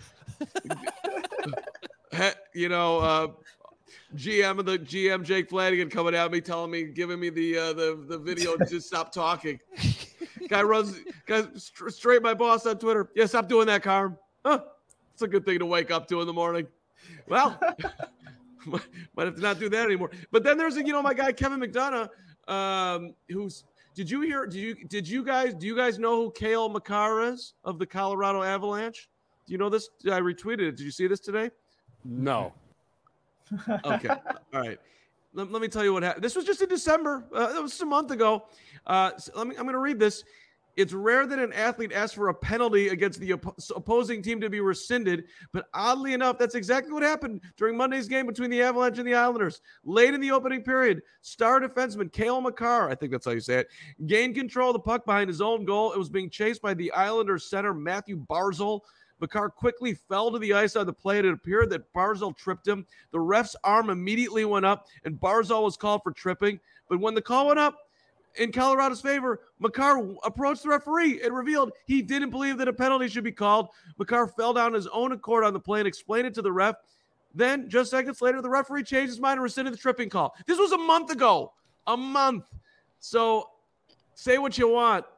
He- you know, uh, G M of the G M Jake Flanagan coming at me, telling me, giving me the uh, the the video, just stop talking. Guy runs, guy st- straight my boss on Twitter. Yeah, stop doing that, Carm. Huh? It's a good thing to wake up to in the morning. Well, might might have to not do that anymore. But then there's a, you know, my guy Kevin McDonough, um, who's. Did you hear? Did you did you guys do you guys know who Cale Makar is of the Colorado Avalanche? Do you know this? I retweeted it. Did you see this today? No. Okay. All right. Let, let me tell you what happened. This was just in December. Uh, that was just a month ago. Uh, so let me, I'm going to read this. It's rare that an athlete asks for a penalty against the oppo- opposing team to be rescinded, but oddly enough, that's exactly what happened during Monday's game between the Avalanche and the Islanders. Late in the opening period, star defenseman Cale Makar, I think that's how you say it, gained control of the puck behind his own goal. It was being chased by the Islanders center Matthew Barzal. Makar quickly fell to the ice on the play, and it appeared that Barzal tripped him. The ref's arm immediately went up, and Barzal was called for tripping. But when the call went up in Colorado's favor, Makar approached the referee and revealed he didn't believe that a penalty should be called. Makar fell down his own accord on the play and explained it to the ref. Then, just seconds later, the referee changed his mind and rescinded the tripping call. This was a month ago. A month. So, say what you want.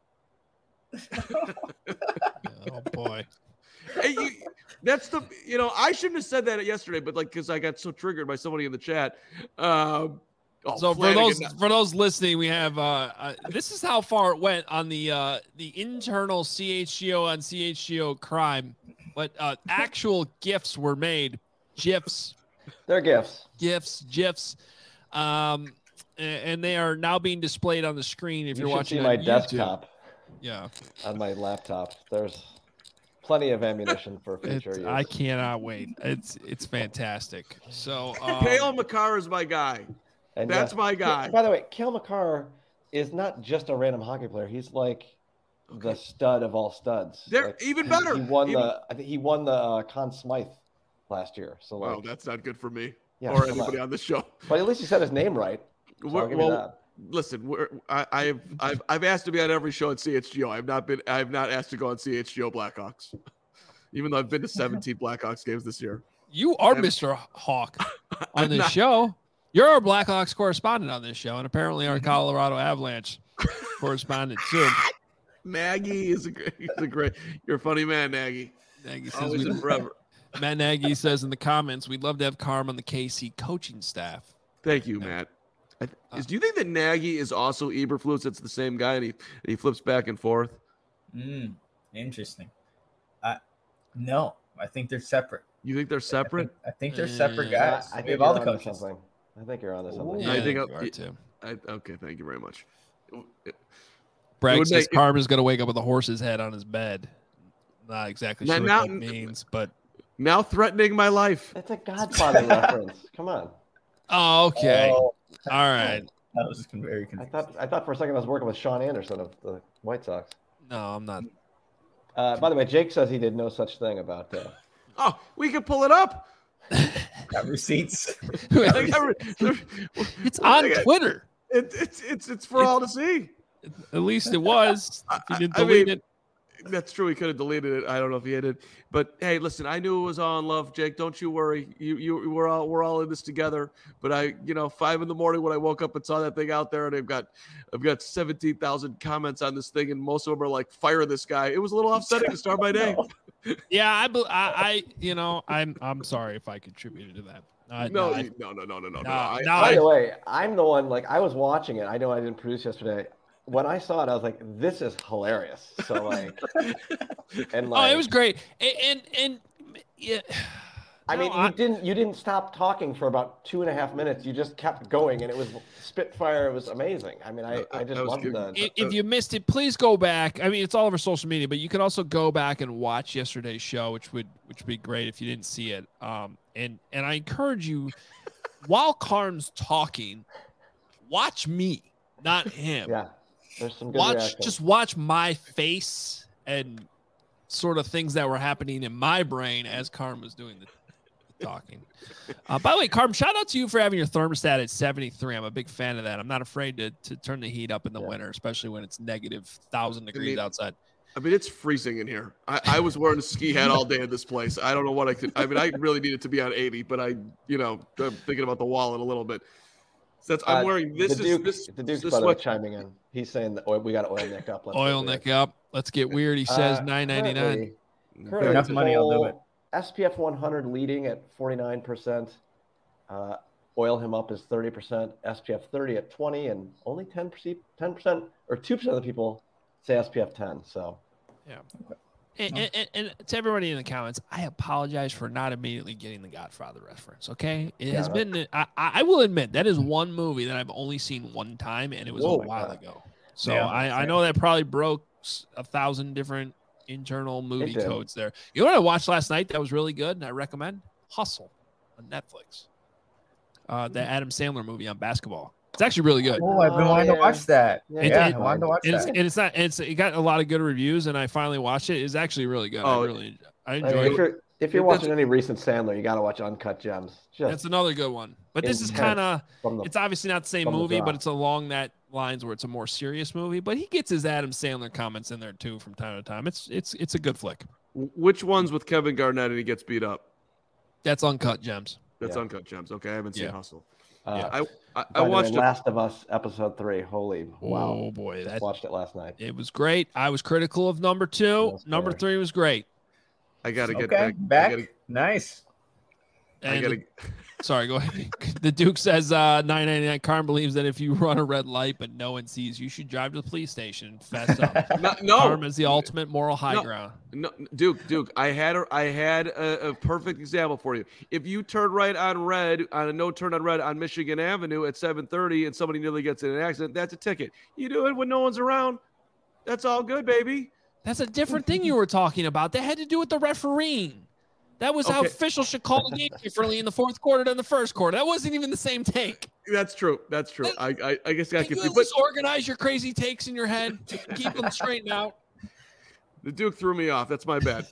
Oh boy. Hey, you, that's the you know I shouldn't have said that yesterday, but like because I got so triggered by somebody in the chat. Um, oh, So for Flanagan, those for those listening, we have uh, uh this is how far it went on the uh the internal C H G O on C H G O crime, but uh actual gifts were made, gifs, They're gifts. gifs, gifs, um, a- and they are now being displayed on the screen. If You you're should watching see my on YouTube. desktop Yeah, on my laptop. There's plenty of ammunition for future it's, use. I cannot wait. It's it's fantastic. So um, Cale Makar is my guy. And That's my guy. By the way, Cale Makar is not just a random hockey player. He's like the stud of all studs. They're Like, even he- better. He won Even- the. I think he won the uh, Conn Smythe last year. So like, Wow, that's not good for me yeah, or come anybody on. on this show. But at least he said his name right. So I'll We're- give you well, that. listen, we're, I, I've I've I've asked to be on every show at C H G O. I've not been I've not asked to go on C H G O Blackhawks, even though I've been to seventeen Blackhawks games this year. you are I'm- Mister Hawk on I'm this not- show. You're our Blackhawks correspondent on this show, and apparently our Colorado Avalanche correspondent too. Nagy is a great, he's a great. You're a funny man, Nagy. Nagy says Always we, and forever. Matt Nagy says in the comments, we'd love to have Carm on the K C coaching staff. Thank you, Matt. I, th- is, do you think that Nagy is also Eberflus? It's the same guy, and he he flips back and forth. Mm, interesting. I no, I think they're separate. You think they're I separate? think, I think they're separate Yeah, guys. I we think have all the you're onto coaches. something. I think you're onto something. Yeah, I I think think I'll- you are too. I, okay, thank you very much. Bragg would says make- Carm is going to wake up with a horse's head on his bed. Not exactly Now- sure now- what that means, but Now threatening my life. It's a Godfather reference. Come on. oh, okay. Oh, All right. that was just very I confusing. thought I thought for a second I was working with Sean Anderson of the White Sox. No, I'm not. Uh, by the way, Jake says he did no such thing about. Uh... Oh, we can pull it up. Got receipts. It's on Twitter. It, it's it's it's for all to see. At least it was. If you didn't I delete mean, it. That's true. He could have deleted it. I don't know if he did. But hey, listen, I knew it was all in love, Jake. Don't you worry. You you we're all we're all in this together. But I, you know, five in the morning when I woke up and saw that thing out there, and I've got I've got seventeen thousand comments on this thing, and most of them are like, fire this guy. It was a little upsetting to start my day. Yeah, I, I, I, you know, I'm I'm sorry if I contributed to that. Uh, no, no, I, no, no, no, no, no, no. no, I, no, By I- the way, I'm the one. Like I was watching it. I know I didn't produce yesterday. When I saw it, I was like, "This is hilarious." So like, and like, oh, it was great. And and, and yeah. I No, mean, you didn't you didn't stop talking for about two and a half minutes. You just kept going, and it was spitfire. It was amazing. I mean, I, I just That was loved good. the. If, if you missed it, please go back. I mean, it's all over social media, but you can also go back and watch yesterday's show, which would which would be great if you didn't see it. Um, and and I encourage you, while Carm's talking, watch me, not him. Yeah, there's some good watch reactions. just watch my face and sort of things that were happening in my brain as Carm was doing the, the talking. Uh, by the way, Carm, shout out to you for having your thermostat at seventy-three. I'm a big fan of that. I'm not afraid to to turn the heat up in the Yeah. winter, especially when it's negative thousand degrees mean, outside. I mean, it's freezing in here. I, I was wearing a ski hat all day in this place. I don't know what I could. I mean, I really needed to be on eighty, but I, you know, I'm thinking about the wallet a little bit. So that's, I'm Uh, wearing this. the is Duke, this. the Duke's this by the way sweat- chiming in. He's saying that oil, we got oil Nick up. Let's Oil get weird. Nick up. Let's get weird. He says Uh, nine ninety-nine. currently- For currently enough the money, I'll do whole it. S P F one hundred leading at forty-nine percent. Uh, oil him up is thirty percent. S P F thirty at twenty, and only ten percent, ten percent or two percent of the people say S P F ten. So And, and, and, and to everybody in the comments, I apologize for not immediately getting the Godfather reference. Okay, it Yeah, has that- been. I, I I will admit that is one movie that I've only seen one time, and it was Whoa, a my while God. ago. So Yeah, I, I same. know that probably broke s- a thousand different internal movie did. codes there. You know what I watched last night that was really good, and I recommend Hustle on Netflix. Uh, the Adam Sandler movie on basketball. It's actually really good. Oh, I've been Oh, wanting yeah. to watch that. Yeah, Yeah, it- I wanted to watch And it's, that. and it's not. It's it got a lot of good reviews, and I finally watched it. It's actually really good. Oh, I really, I I mean, enjoyed if it. you're if you're That's- watching any recent Sandler, you got to watch Uncut Gems. Just That's another good one. But this is intense kind of. from the It's obviously not the same from the movie, but drop. it's along that lines where it's a more serious movie. But he gets his Adam Sandler comments in there too from time to time. It's it's it's a good flick. Which one's with Kevin Garnett and he gets beat up? That's Uncut Gems. That's Yeah. Uncut Gems. Okay, I haven't seen Yeah. Hustle. uh, I I, I by the way, watched it. Last of Us episode three. Holy wow! Oh boy, Just that watched it last night. it was great. I was critical of number two. That's Number fair. three was great. I gotta get Okay, back. back. I gotta, Nice. I And gotta, the- sorry, go ahead. The Duke says uh, nine ninety-nine. Carm believes that if you run a red light but no one sees, you should drive to the police station and fess up. no, no, Carm is the ultimate moral high No. ground. no, Duke, Duke. I had a, I had a, a perfect example for you. If you turn right on red on a no turn on red on Michigan Avenue at seven thirty and somebody nearly gets in an accident, that's a ticket. You do it when no one's around. That's all good, baby. That's a different thing you were talking about. That had to do with the refereeing. That was how Okay. officials should call the game differently in the fourth quarter than the first quarter. That wasn't even the same take. That's true. That's true. I I, I guess I Can you confused. at But least organize your crazy takes in your head? Keep them straightened out. the Duke threw me off. That's my bad.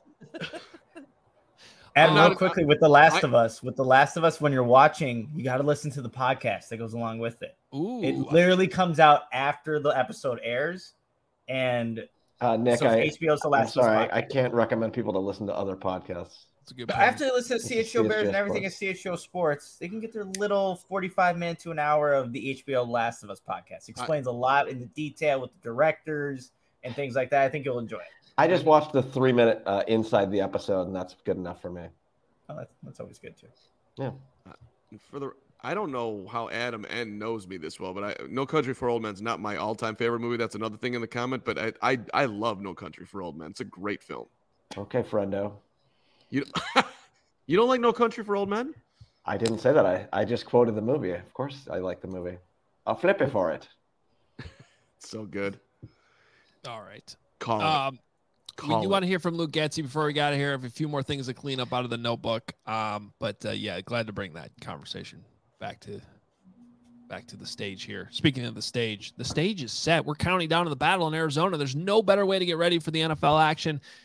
Adam, I'm not- real quickly with The Last I- of Us. With The Last of Us, when you're watching, you got to listen to the podcast that goes along with it. Ooh, It literally comes out after the episode airs, and Uh, Nick, so I, H B O's The I'm Last of Us. sorry, podcast. I can't recommend people to listen to other podcasts. that's a good But point. after they listen to C H O C H O Bears and everything Sports. at C H O Sports, they can get their little forty-five minute to an hour of the H B O Last of Us podcast. Explains a lot in the detail with the directors and things like that. I think you'll enjoy it. I just watched the three minute uh, inside the episode, and that's good enough for me. Oh, that's, that's always good too. Yeah. For the I don't know how Adam N knows me this well, but I No Country for Old Men's not my all-time favorite movie. That's another thing in the comment, but I I, I love No Country for Old Men. It's a great film. Okay, friendo. You you don't like No Country for Old Men? I didn't say that. I, I just quoted the movie. Of course, I like the movie. I'll flip it for it. It's so good. All right. Call it. Um, we Call do it. want to hear from Luke Getzi before we got out of here. I have a few more things to clean up out of the notebook. Um, but uh, yeah, glad to bring that conversation back to back to the stage here. Speaking of the stage, the stage is set. We're counting down to the battle in Arizona. There's no better way to get ready for the N F L action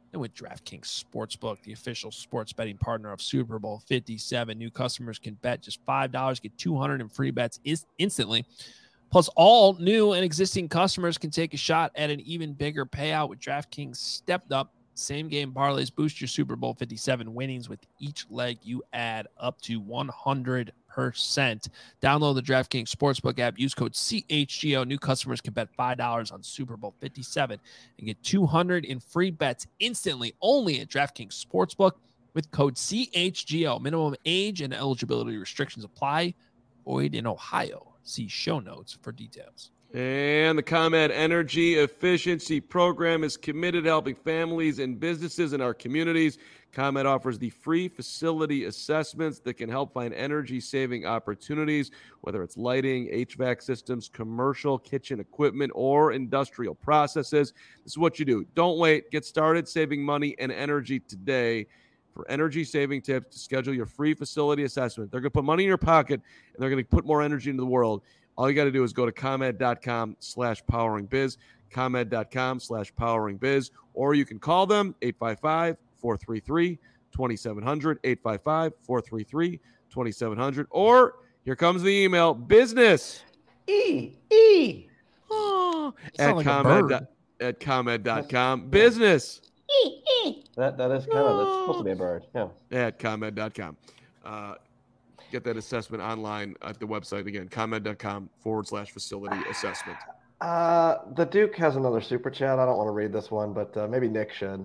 And with DraftKings Sportsbook, the official sports betting partner of Super Bowl fifty-seven, new customers can bet just five dollars, get two hundred in free bets is- instantly. Plus, all new and existing customers can take a shot at an even bigger payout with DraftKings stepped up same-game parlays. Boost your Super Bowl fifty-seven winnings with each leg you add up to one hundred percent. Download the DraftKings Sportsbook app. Use code C H G O. New customers can bet five dollars on Super Bowl fifty-seven and get two hundred in free bets instantly only at DraftKings Sportsbook with code C H G O. Minimum age and eligibility restrictions apply. Void in Ohio. See show notes for details. And the ComEd Energy Efficiency Program is committed to helping families and businesses in our communities. ComEd offers the free facility assessments that can help find energy-saving opportunities, whether it's lighting, H V A C systems, commercial kitchen equipment, or industrial processes. This is what you do. Don't wait. Get started saving money and energy today. For energy-saving tips, to schedule your free facility assessment. They're going to put money in your pocket, and they're going to put more energy into the world. All you got to do is go to ComEd.com slash powering biz, ComEd.com slash powering biz, or you can call them eight five five, four three three, two seven zero zero, eight five five, four three three, two seven zero zero, or here comes the email, business E, E. oh, Sound at like a ComEd, bird. at ComEd.com, business That that is kind of that's supposed to be a bird. Yeah. at ComEd dot com. Uh, get that assessment online at the website again, ComEd.com forward slash facility assessment. Uh, the Duke has another super chat. I don't want to read this one, but uh, maybe Nick should.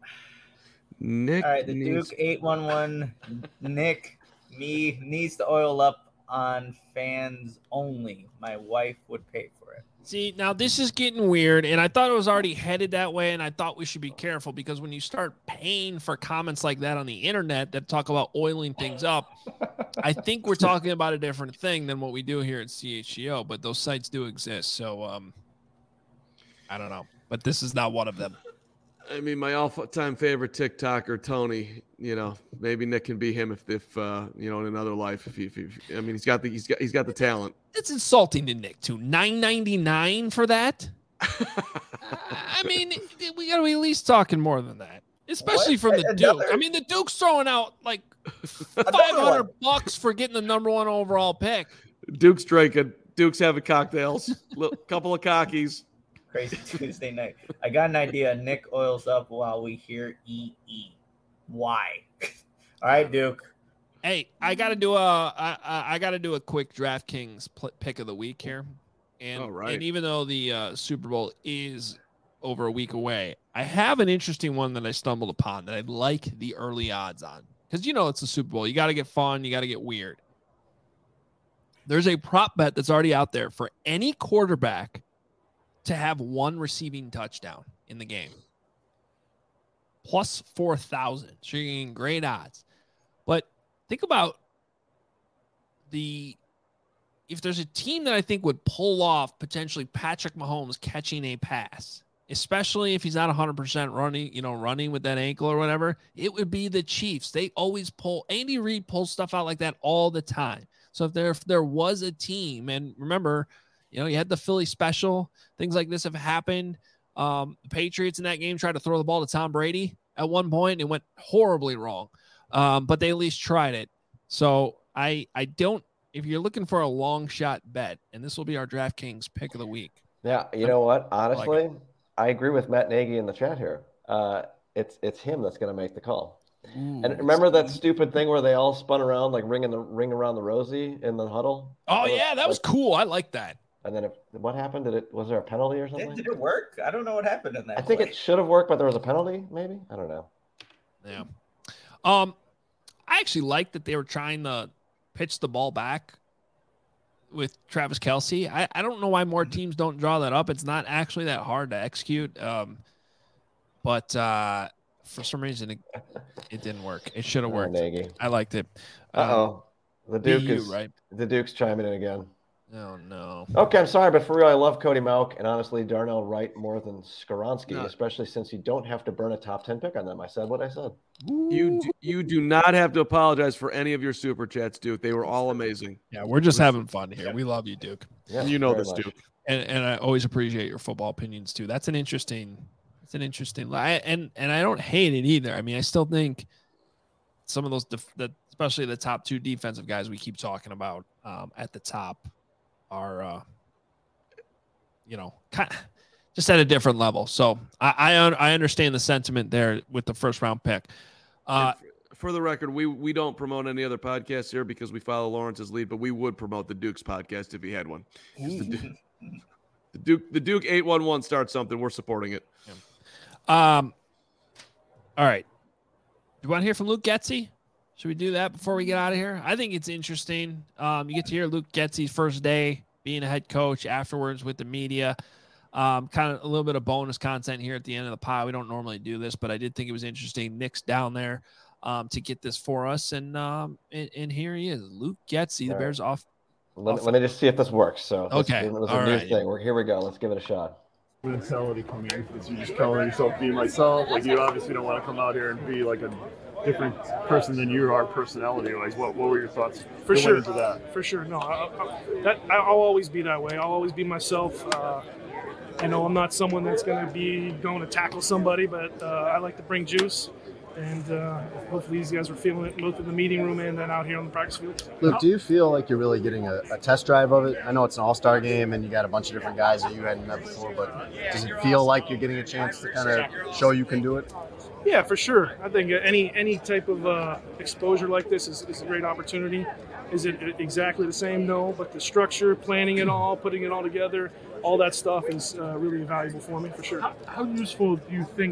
Nick, All right, the needs- Duke eight one one. Nick, me needs to oil up on fans only. My wife would pay for it. See, now this is getting weird, and I thought it was already headed that way, and I thought we should be careful because when you start paying for comments like that on the internet that talk about oiling things up, I think we're talking about a different thing than what we do here at C H G O, but those sites do exist, so um, I don't know. But this is not one of them. I mean, my all-time favorite TikToker, Tony. You know, maybe Nick can be him if, if uh, you know, in another life. If, he, if, he, if I mean, he's got the he's got he's got the talent. It's insulting to Nick too. nine ninety-nine for that. I mean, we got to be at least talking more than that, especially What? from the Another- Duke. I mean, the Duke's throwing out like five hundred bucks for getting the number one overall pick. Duke's drinking. Duke's having cocktails. Little, couple of cockies. Crazy Tuesday night. I got an idea. Nick oils up while we hear E E. Why? All right, Duke. Hey, I got to do a I, I I got to do a quick DraftKings pl- pick of the week here, and All right. and even though the uh, Super Bowl is over a week away, I have an interesting one that I stumbled upon that I like the early odds on because you know it's the Super Bowl. You got to get fun. You got to get weird. There's a prop bet that's already out there for any quarterback to have one receiving touchdown in the game. Plus four thousand. So you're getting great odds. But think about the if there's a team that I think would pull off potentially Patrick Mahomes catching a pass, especially if he's not one hundred percent running, you know, running with that ankle or whatever, it would be the Chiefs. They always pull, Andy Reid pulls stuff out like that all the time. So if there if there was a team, and remember, you know, you had the Philly special, things like this have happened. Um, the Patriots in that game tried to throw the ball to Tom Brady at one point, and it went horribly wrong. Um, but they at least tried it. So I I don't, if you're looking for a long shot bet, and this will be our DraftKings pick of the week. Yeah, you know what? Honestly, like I agree with Matt Nagy in the chat here. Uh, it's it's him that's going to make the call. Ooh, And remember that stupid thing where they all spun around like ringing the ring around the rosy in the huddle? Oh yeah, that was cool. I like that. And then if, what happened? Did it was there a penalty or Did, something? did it work? I don't know what happened in that. I think play. it should have worked, but there was a penalty. Maybe I don't know. Yeah. Um, I actually like that they were trying to pitch the ball back with Travis Kelce. I, I don't know why more teams don't draw that up. It's not actually that hard to execute. Um, but uh, for some reason it, it didn't work. It should have Oh, worked. Nagy. I liked it. Uh oh, the B Duke U, is right? the Duke's chiming in again. Oh no. Okay, I'm sorry, but for real, I love Cody Mauch and honestly Darnell Wright more than Skoronski, No. especially since you don't have to burn a top ten pick on them. I said what I said. You do, you do not have to apologize for any of your super chats, Duke. They were all amazing. Yeah, we're just having fun here. We love you, Duke. Yeah, you know very this, much. Duke. And and I always appreciate your football opinions too. That's an interesting It's an interesting lie, and and I don't hate it either. I mean, I still think some of those, def- the, especially the top two defensive guys we keep talking about um, at the top, are, uh, you know, kind of just at a different level. So I I, I understand the sentiment there with the first round pick. Uh, for the record, we we don't promote any other podcasts here because we follow Lawrence's lead, but we would promote the Duke's podcast if he had one. The Duke, the Duke, the Duke eight one one starts something. We're supporting it. Yeah. Um. All right. Do you want to hear from Luke Getsy? Should we do that before we get out of here? I think it's interesting. Um, you get to hear Luke Getsy's first day being a head coach, afterwards with the media. Um, kind of a little bit of bonus content here at the end of the pod. We don't normally do this, but I did think it was interesting. Nick's down there um, to get this for us, and um, and, and here he is, Luke Getsy, the All Bears right. off. Let, off let me just see if this works. So okay, it was a all new right. thing. We're, here we go. Let's give it a shot. Mentality coming in because you just calling yourself being myself. Like you obviously don't want to come out here and be like a different person than you are personality wise. What what were your thoughts? For that sure, went into that? for sure. No, I, I, that I'll always be that way. I'll always be myself. Uh, you know, I'm not someone that's going to be going to tackle somebody, but uh, I like to bring juice. And uh, hopefully these guys were feeling it both in the meeting room and then out here on the practice field. Luke, do you feel like you're really getting a, a test drive of it? I know it's an all-star game and you got a bunch of different guys that you hadn't met before, but does it feel like you're getting a chance to kind of show you can do it? Yeah, for sure. I think any any type of uh, exposure like this is, is a great opportunity. Is it exactly the same? No, but the structure, planning it all, putting it all together, all that stuff is uh, really valuable for me, for sure. How, how useful do you think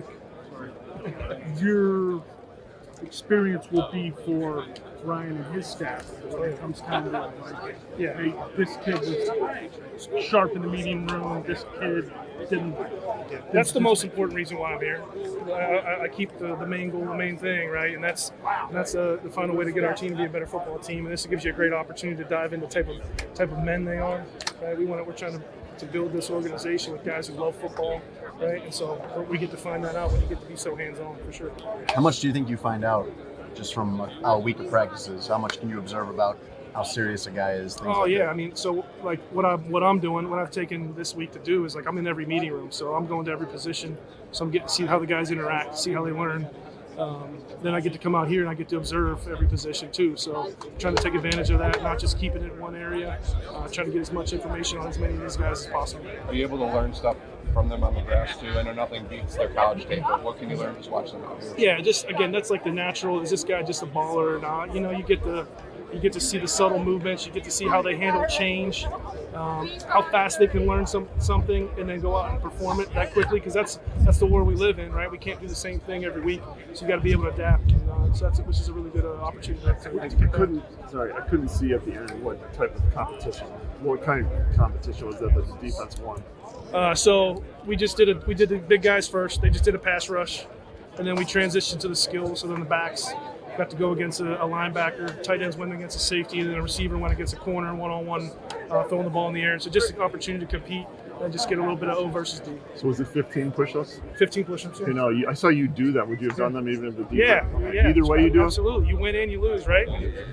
your experience will be for Ryan and his staff when it comes time to like, yeah, hey, this kid was sharp in the meeting room, this kid didn't. That's the most important reason why I'm here. I, I, I keep the, the main goal, the main thing, right? And that's that's uh, the final way to get our team to be a better football team. And this gives you a great opportunity to dive into the type of type of men they are. Right? We want to, we're trying to, to build this organization with guys who love football, right? And so we get to find that out when you get to be so hands-on, for sure. How much do you think you find out just from a, a week of practices? How much can you observe about how serious a guy is? Things Oh like yeah, that? I mean, so like what I'm what I'm doing, what I've taken this week to do is like I'm in every meeting room, so I'm going to every position, so I'm getting to see how the guys interact, see how they learn. Um, then I get to come out here and I get to observe every position too. So I'm trying to take advantage of that, not just keeping it in one area. Uh, trying to get as much information on as many of these guys as possible. Are you able to learn stuff from them on the grass too? I know nothing beats their college tape, but what can you learn just watching them out here? Yeah, just again, that's like the natural. Is this guy just a baller or not? You know, you get the you get to see the subtle movements. You get to see how they handle change, um, how fast they can learn some something and then go out and perform it that quickly. Because that's that's the world we live in, right? We can't do the same thing every week, so you got to be able to adapt. And, uh, so that's which is a really good uh, opportunity to, to I, get I that. couldn't. Sorry, I couldn't see at the end what type of competition. What kind of competition was that that the defense won? Uh, so we just did a we did the big guys first. They just did a pass rush, and then we transitioned to the skills. So then the backs got to go against a, a linebacker. Tight ends went against a safety, and then a receiver went against a corner, one on one, throwing the ball in the air. So just an opportunity to compete and just get a little bit of O versus D. So was it fifteen push-ups? fifteen push-ups. Yeah. You know, you, I saw you do that. Would you have done them even if the defense? Yeah, yeah. Either way you do it? Absolutely. You win and you lose, right?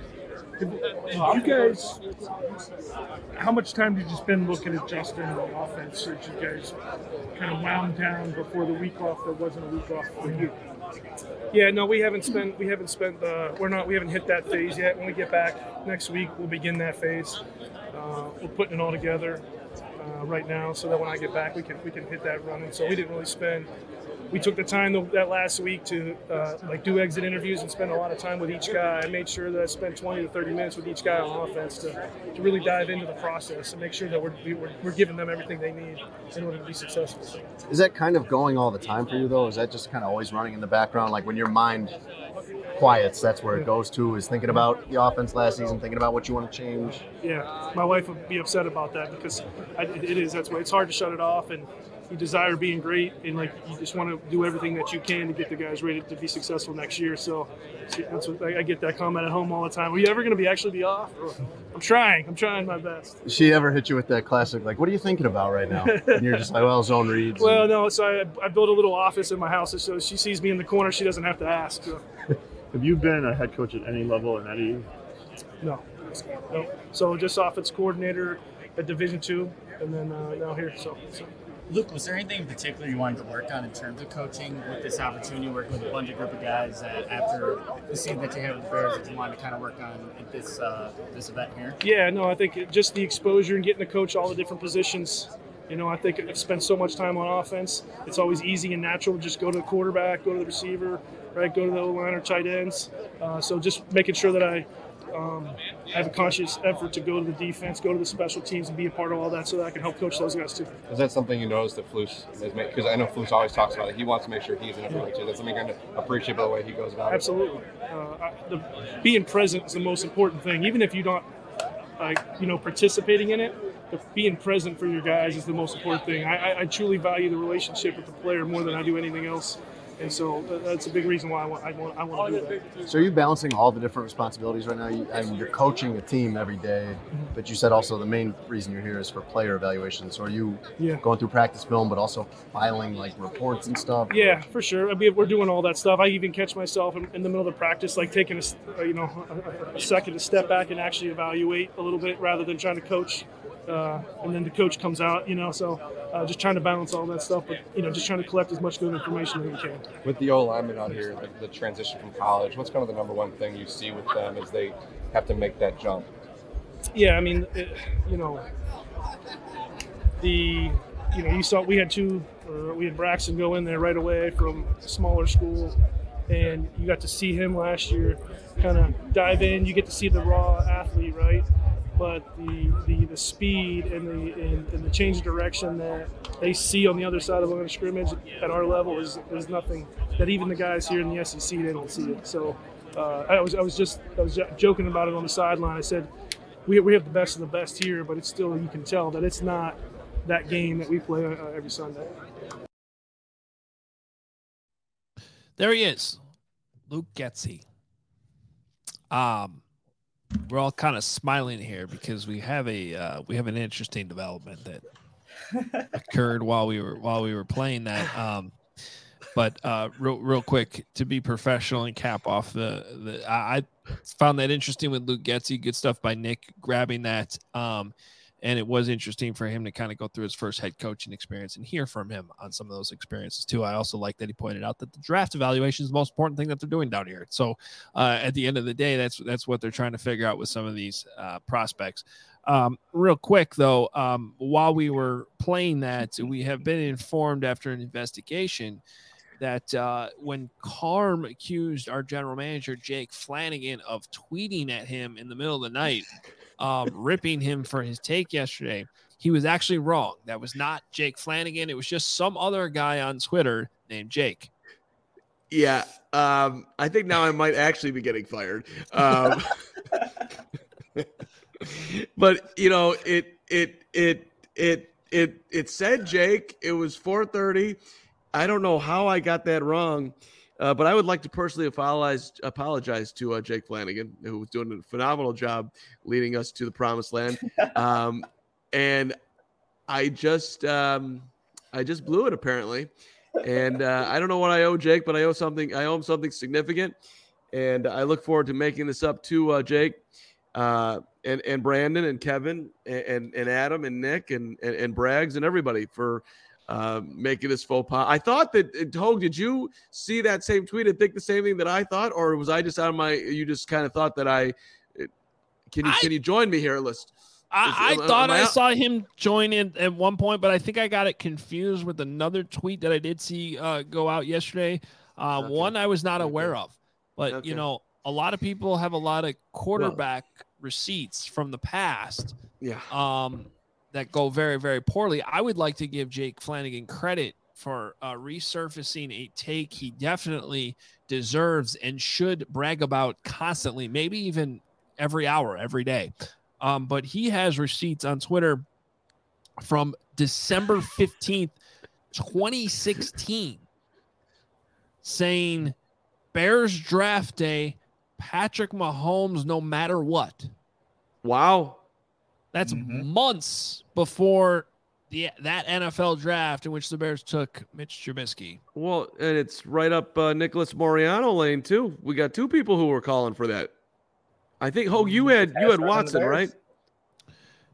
You guys, how much time did you spend looking at Justin and the offense? Did you guys kind of wound down before the week off that wasn't a week off for you? Yeah, no, we haven't spent. We haven't spent. Uh, we're not. We haven't hit that phase yet. When we get back next week, we'll begin that phase. Uh, we're putting it all together uh, right now, so that when I get back, we can we can hit that running. So we didn't really spend. We took the time the, that last week to uh, like do exit interviews and spend a lot of time with each guy. I made sure that I spent twenty to thirty minutes with each guy on offense to, to really dive into the process and make sure that we're, we're we're giving them everything they need in order to be successful. So, Is that kind of going all the time for you, though? Is that just kind of always running in the background? Like when your mind quiets, that's where it goes to, is thinking about the offense last season, thinking about what you want to change? yeah, my wife would be upset about that because I, it is. That's why it's hard to shut it off, and you desire being great, and like you just want to do everything that you can to get the guys ready to be successful next year. So that's what I get that comment at home all the time. Are you ever going to be actually be off? I'm trying. I'm trying my best. Does she ever hit you with that classic, like, what are you thinking about right now? And you're just like, well, zone reads. Well, and- no. So I, I built a little office in my house, so she sees me in the corner. She doesn't have to ask. So. Have you been a head coach at any level in any? No. No. So just offense coordinator at Division Two, and then uh, now here. So. so. Luke, was there anything in particular you wanted to work on in terms of coaching with this opportunity, working with a bunch of group of guys that after the season that you had with the Bears that you wanted to kind of work on at this uh, this event here? Yeah, no, I think it, just the exposure and getting to coach all the different positions. You know, I think I've spent so much time on offense. It's always easy and natural to just go to the quarterback, go to the receiver, right? Go to the O-line or tight ends. Uh, so just making sure that I um, have a conscious effort to go to the defense, go to the special teams, and be a part of all that so that I can help coach those guys too. Is that something you noticed that Flus has made? Because I know Flus always talks about it. He wants to make sure he's in it yeah. too. That's something kind of appreciate by the way he goes about Absolutely. it. Absolutely. Uh, the, being present is the most important thing. Even if you're not, like, you know, participating in it, but being present for your guys is the most important thing. I, I, I truly value the relationship with the player more than I do anything else. And so that's a big reason why I want, I want, I want to do that. So are you balancing all the different responsibilities right now? You, I mean, you're coaching a team every day, mm-hmm. but you said also the main reason you're here is for player evaluation. So are you yeah. going through practice film, but also filing like reports and stuff? Yeah, for sure. I mean, we're doing all that stuff. I even catch myself in, in the middle of the practice, like taking a, you know, a, a second to step back and actually evaluate a little bit rather than trying to coach. Uh, and then the coach comes out, you know, so uh, just trying to balance all that stuff, but, you know, just trying to collect as much good information as we can. With the O-linemen out here, the, the transition from college, what's kind of the number one thing you see with them as they have to make that jump? Yeah, I mean, it, you know, the, you know, you saw we had two, uh, we had Braxton go in there right away from a smaller school, and you got to see him last year kind of dive in. You get to see the raw athlete, right? But the, the, the speed and the and, and the change of direction that they see on the other side of the line of scrimmage at our level is, is nothing that even the guys here in the S E C, they don't see it. So uh, I was I was just I was joking about it on the sideline. I said we we have the best of the best here, but it's still, you can tell that it's not that game that we play uh, every Sunday. There he is, Luke Getsy. Um. We're all kind of smiling here because we have a uh, we have an interesting development that occurred while we were while we were playing that. Um, but uh, real real quick, to be professional and cap off the the I, I found that interesting with Luke Getsy. Good stuff by Nick grabbing that. Um, and it was interesting for him to kind of go through his first head coaching experience and hear from him on some of those experiences too. I also like that he pointed out that the draft evaluation is the most important thing that they're doing down here. So uh, at the end of the day, that's that's what they're trying to figure out with some of these uh, prospects. Um, real quick though, um, while we were playing that, we have been informed after an investigation that uh, when Carm accused our general manager, Jake Flanagan, of tweeting at him in the middle of the night, um, ripping him for his take yesterday, he was actually wrong. That was not Jake Flanagan. It was just some other guy on Twitter named Jake. Yeah. Um, I think now I might actually be getting fired. Um, but you know, it, it, it, it, it, it said Jake. It was four thirty. I don't know how I got that wrong, uh, but I would like to personally apologize, apologize to uh, Jake Flanagan, who was doing a phenomenal job leading us to the promised land. Um, and I just, um, I just blew it apparently. And uh, I don't know what I owe Jake, but I owe something. I owe him something significant. And I look forward to making this up to uh, Jake uh, and, and Brandon and Kevin and, and Adam and Nick and, and, and Braggs and everybody for uh, making this faux pas. I thought that, Hogue, did you see that same tweet and think the same thing that I thought? Or was I just out of my, you just kind of thought that I, can you, I, can you join me here, List? I, I thought I, I saw him join in at one point, but I think I got it confused with another tweet that I did see uh, go out yesterday. Uh, okay. One I was not aware okay. of, but okay. you know, a lot of people have a lot of quarterback well, receipts from the past. Yeah. Um, that go very, very poorly. I would like to give Jake Flanagan credit for uh, resurfacing a take he definitely deserves and should brag about constantly, maybe even every hour, every day. Um, but he has receipts on Twitter from December fifteenth, twenty sixteen, saying Bears draft day, Patrick Mahomes, no matter what. Wow. That's mm-hmm. months before the that N F L draft in which the Bears took Mitch Trubisky. Well, and it's right up uh, Nicholas Moriano lane too. We got two people who were calling for that. I think, Hogue, you had you had Watson, right?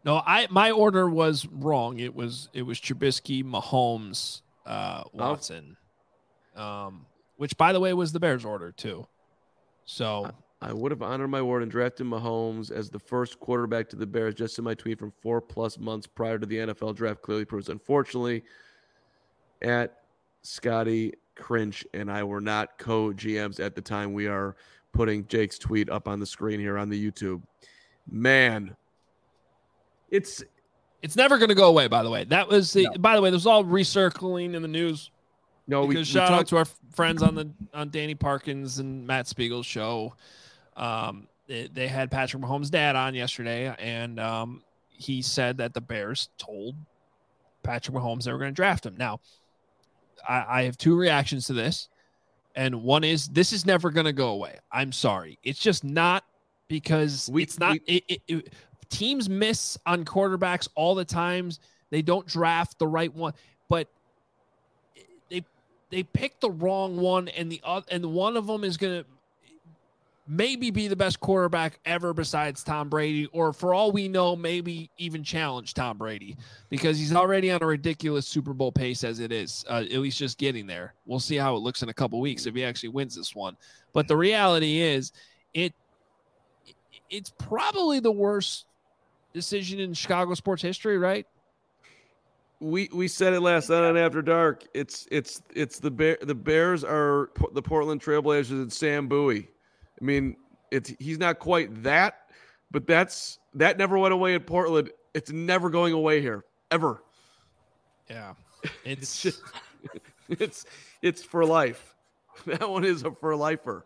No, I my order was wrong. It was it was Trubisky, Mahomes, uh, Watson, um, which by the way was the Bears' order too. So I would have honored my word and drafted Mahomes as the first quarterback to the Bears, just in my tweet from four plus months prior to the N F L draft clearly proves. Unfortunately, at Scotty Crinch and I were not co-G Ms at the time. We are putting Jake's tweet up on the screen here on the YouTube. Man, it's it's never going to go away. By the way, that was the. No. By the way, this was all recircling in the news. no. We, we Because shout talked, out to our friends on the on Danny Parkins and Matt Spiegel's show. Um, they, they had Patrick Mahomes' dad on yesterday, and um, he said that the Bears told Patrick Mahomes they were going to draft him. Now, I, I have two reactions to this, and one is this is never going to go away. I'm sorry, it's just not because We- it's not. we- it, it, it, teams miss on quarterbacks all the times. They don't draft the right one, but they they pick the wrong one, and the other, and one of them is going to maybe be the best quarterback ever besides Tom Brady, or for all we know, maybe even challenge Tom Brady because he's already on a ridiculous Super Bowl pace as it is, uh, at least just getting there. We'll see how it looks in a couple weeks if he actually wins this one. But the reality is it it's probably the worst decision in Chicago sports history, right? we we said it last night on After Dark. It's it's it's the Bear, the Bears are P- the Portland Trailblazers and Sam Bowie. I mean, it's he's not quite that, but that's that never went away in Portland. It's never going away here ever. Yeah, It's it's just, it's it's for life. That one is a for lifer.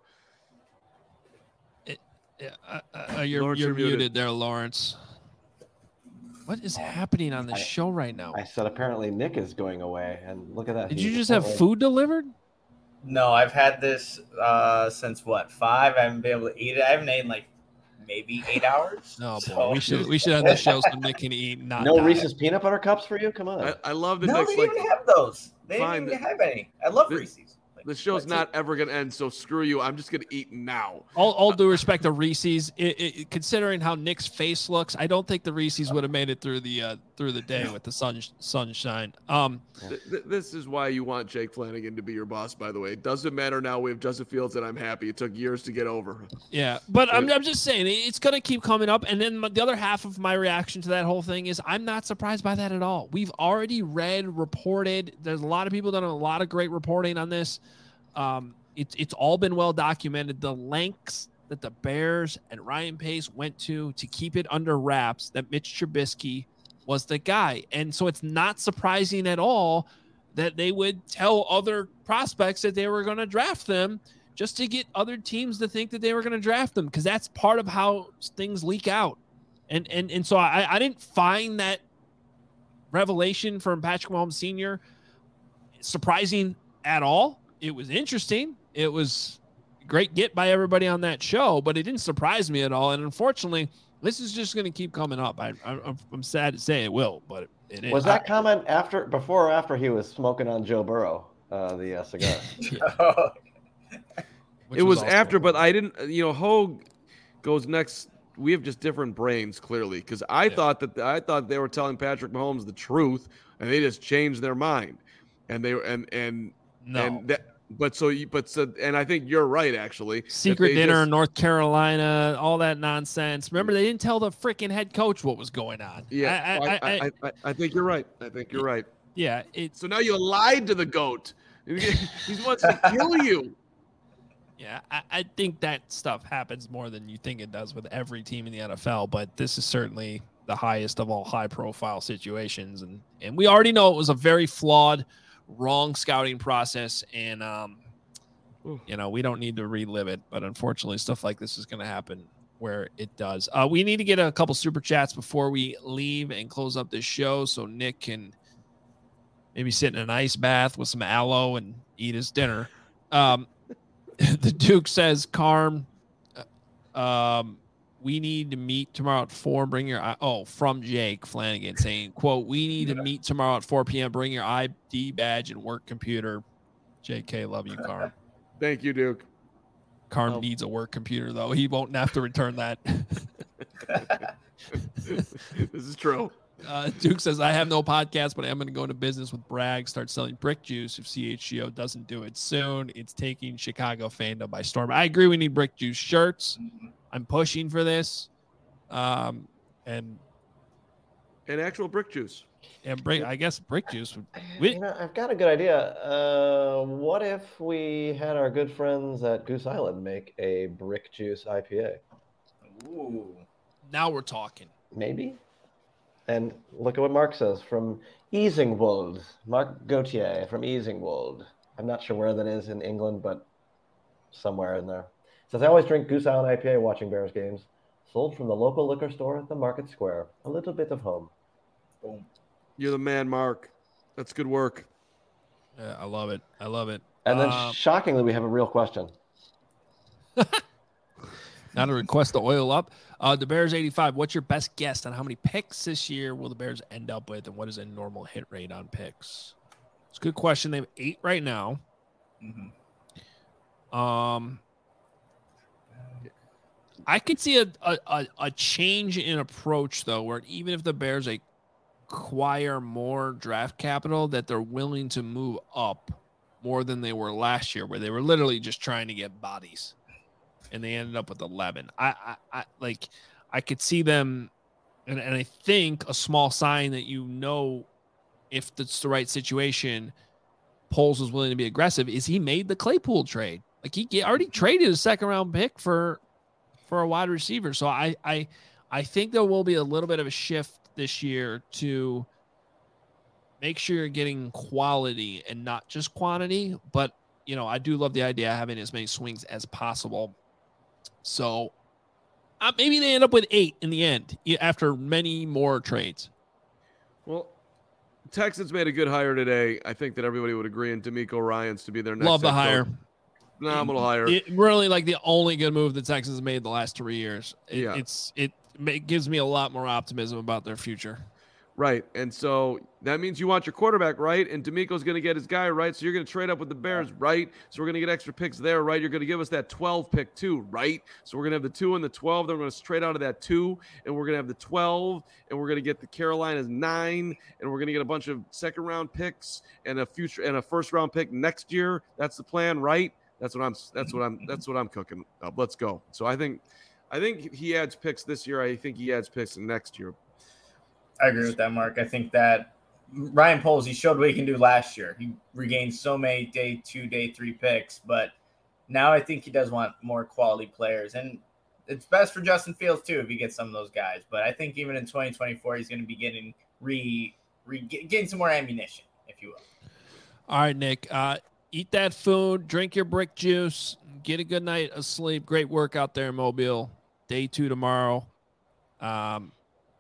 yeah, uh, uh, you're Lawrence, you're you're muted. muted there, Lawrence. What is happening on this I- show right now? I said apparently Nick is going away, and look at that. Did he you just have apparently- food delivered? No, I've had this uh, since what five. I haven't been able to eat it. I haven't eaten like maybe eight hours. No, boy, So- we should we should have the show so Nick can eat. Not No die. Reese's peanut butter cups for you? Come on. I, I love the No, next they like didn't even have those. They Fine. didn't even have any. I love The- Reese's. Like, the show's what's not it- ever gonna end. So screw you. I'm just gonna eat now. All, all due respect to Reese's, it, it, considering how Nick's face looks, I don't think the Reese's would have made it through the uh, through the day with the sun sunshine. Um, Th- th- this is why you want Jake Flanagan to be your boss. By the way, it doesn't matter now. We have Justin Fields, and I'm happy. It took years to get over. yeah, but I'm I'm just saying it- it's gonna keep coming up. And then the other half of my reaction to that whole thing is I'm not surprised by that at all. We've already read, reported. There's a lot of people done a lot of great reporting on this. Um, it's it's all been well documented. The lengths that the Bears and Ryan Pace went to to keep it under wraps that Mitch Trubisky was the guy, and so it's not surprising at all that they would tell other prospects that they were going to draft them just to get other teams to think that they were going to draft them, because that's part of how things leak out. And and and so I, I didn't find that revelation from Patrick Mahomes Senior surprising at all. It was interesting. It was a great get by everybody on that show, but it didn't surprise me at all. And unfortunately, this is just going to keep coming up. I, I, I'm sad to say it will, but it is. Was that comment after, before, or after he was smoking on Joe Burrow, uh, the uh, cigar? Which it was also- after, but I didn't. You know, Hogue goes next. We have just different brains, clearly, because I Yeah. thought that I thought they were telling Patrick Mahomes the truth, and they just changed their mind, and they were and and No. and that. But so, you, but so, and I think you're right, actually. that Secret they dinner just- in North Carolina, all that nonsense. Remember, they didn't tell the freaking head coach what was going on. Yeah, I, I, I, I, I, I, I think you're right. I think you're right. yeah, it's So now you lied to the goat. He wants to kill you. yeah. I, I think that stuff happens more than you think it does with every team in the N F L. But this is certainly the highest of all high-profile situations, and and we already know it was a very flawed, wrong scouting process, and um, Ooh. you know, we don't need to relive it. But unfortunately, stuff like this is going to happen where it does. Uh, we need to get a couple super chats before we leave and close up this show, so Nick can maybe sit in an ice bath with some aloe and eat his dinner. Um, the Duke says, Carm, uh, um, we need to meet tomorrow at four. Bring your, I- oh, from Jake Flanagan saying, quote, we need to meet tomorrow at four p.m. Bring your I D badge and work computer. J K, love you, Carm. Thank you, Duke. Carm Oh. needs a work computer, though. He won't have to return that. This is true. Uh, Duke says, I have no podcast, but I am going to go into business with Bragg, start selling brick juice if C H G O doesn't do it soon. It's taking Chicago fandom by storm. I agree we need brick juice shirts. I'm pushing for this. Um, and and actual brick juice. And brick, I guess brick juice would. You know, I've got a good idea. Uh, what if we had our good friends at Goose Island make a brick juice I P A? Ooh. Now we're talking. Maybe. And look at what Mark says from Easingwold. Mark Gauthier from Easingwold. I'm not sure where that is in England, but somewhere in there. Says, I always drink Goose Island I P A watching Bears games. Sold from the local liquor store at the Market Square. A little bit of home. Boom. You're the man, Mark. That's good work. Yeah, I love it. I love it. And then Um, shockingly, we have a real question. Not a request to oil up. Uh, the Bears eighty-five. What's your best guess on how many picks this year will the Bears end up with, and what is a normal hit rate on picks? It's a good question. They have eight right now. Mm-hmm. Um, I could see a, a, a, a change in approach, though, where even if the Bears acquire more draft capital, that they're willing to move up more than they were last year, where they were literally just trying to get bodies. And they ended up with eleven. I, I, I like, I could see them, and, and I think a small sign that you know, if it's the right situation, Poles was willing to be aggressive. Is he made the Claypool trade? Like he already traded a second round pick for, for a wide receiver. So I, I, I think there will be a little bit of a shift this year to make sure you're getting quality and not just quantity. But you know, I do love the idea of having as many swings as possible. So uh, maybe they end up with eight in the end after many more trades. Well, Texans made a good hire today. I think that everybody would agree, and D'Amico Ryans to be their next. Love the head hire. coach. Phenomenal hire. It, really like the only good move the Texans made the last three years. It, Yeah. It's it, it gives me a lot more optimism about their future. Right. And so that means you want your quarterback, right? And D'Amico's going to get his guy, right? So you're going to trade up with the Bears, right? So we're going to get extra picks there, right? You're going to give us that twelve pick too, right? So we're going to have the two and the twelve. Then we're going to trade out of that two, and we're going to have the twelve, and we're going to get the Carolinas nine, and we're going to get a bunch of second round picks and a future and a first round pick next year. That's the plan, right? That's what I'm. That's what I'm. That's what I'm cooking up. Let's go. So I think, I think he adds picks this year. I think he adds picks next year. I agree with that, Mark. I think that Ryan Poles, he showed what he can do last year. He regained so many day two, day three picks, but now I think he does want more quality players. And it's best for Justin Fields, too, if he gets some of those guys. But I think even in twenty twenty-four, he's going to be getting re, re getting some more ammunition, if you will. All right, Nick. Uh, eat that food, drink your brick juice, get a good night of sleep. Great work out there in Mobile. Day two tomorrow. Um,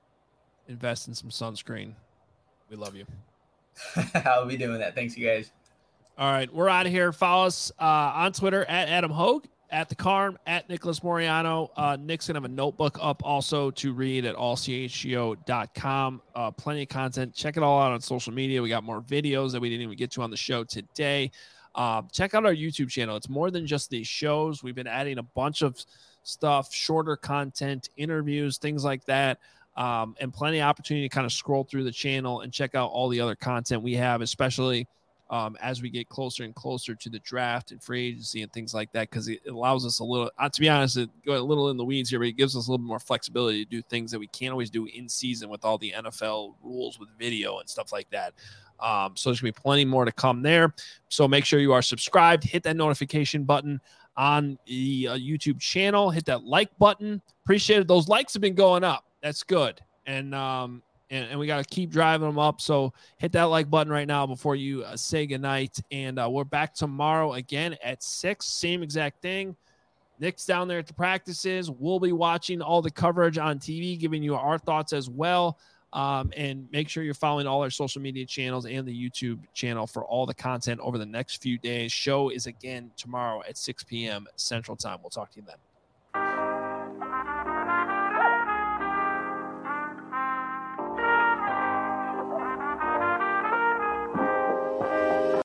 invest in some sunscreen. We love you. I'll be doing that. Thanks, you guys. All right, we're out of here. Follow us uh, on Twitter at Adam Hogue, at the Carm, at Nicholas Moriano. Uh, Nick's gonna have a notebook up also to read at all c h g o dot com. Uh, plenty of content. Check it all out on social media. We got more videos that we didn't even get to on the show today. Uh, check out our YouTube channel. It's more than just these shows. We've been adding a bunch of stuff, shorter content, interviews, things like that. Um, and plenty of opportunity to kind of scroll through the channel and check out all the other content we have, especially um, as we get closer and closer to the draft and free agency and things like that, because it allows us a little, uh, to be honest, it go a little in the weeds here, but it gives us a little bit more flexibility to do things that we can't always do in season with all the N F L rules with video and stuff like that. Um, so there's going to be plenty more to come there. So make sure you are subscribed, hit that notification button on the uh, YouTube channel, hit that like button. Appreciate it. Those likes have been going up. That's good. And, um, and, and we got to keep driving them up. So hit that like button right now before you uh, say goodnight. And uh, we're back tomorrow again at six, same exact thing. Nick's down there at the practices. We'll be watching all the coverage on T V, giving you our thoughts as well. Um, and make sure you're following all our social media channels and the YouTube channel for all the content over the next few days. Show is again tomorrow at six p.m. Central Time. We'll talk to you then.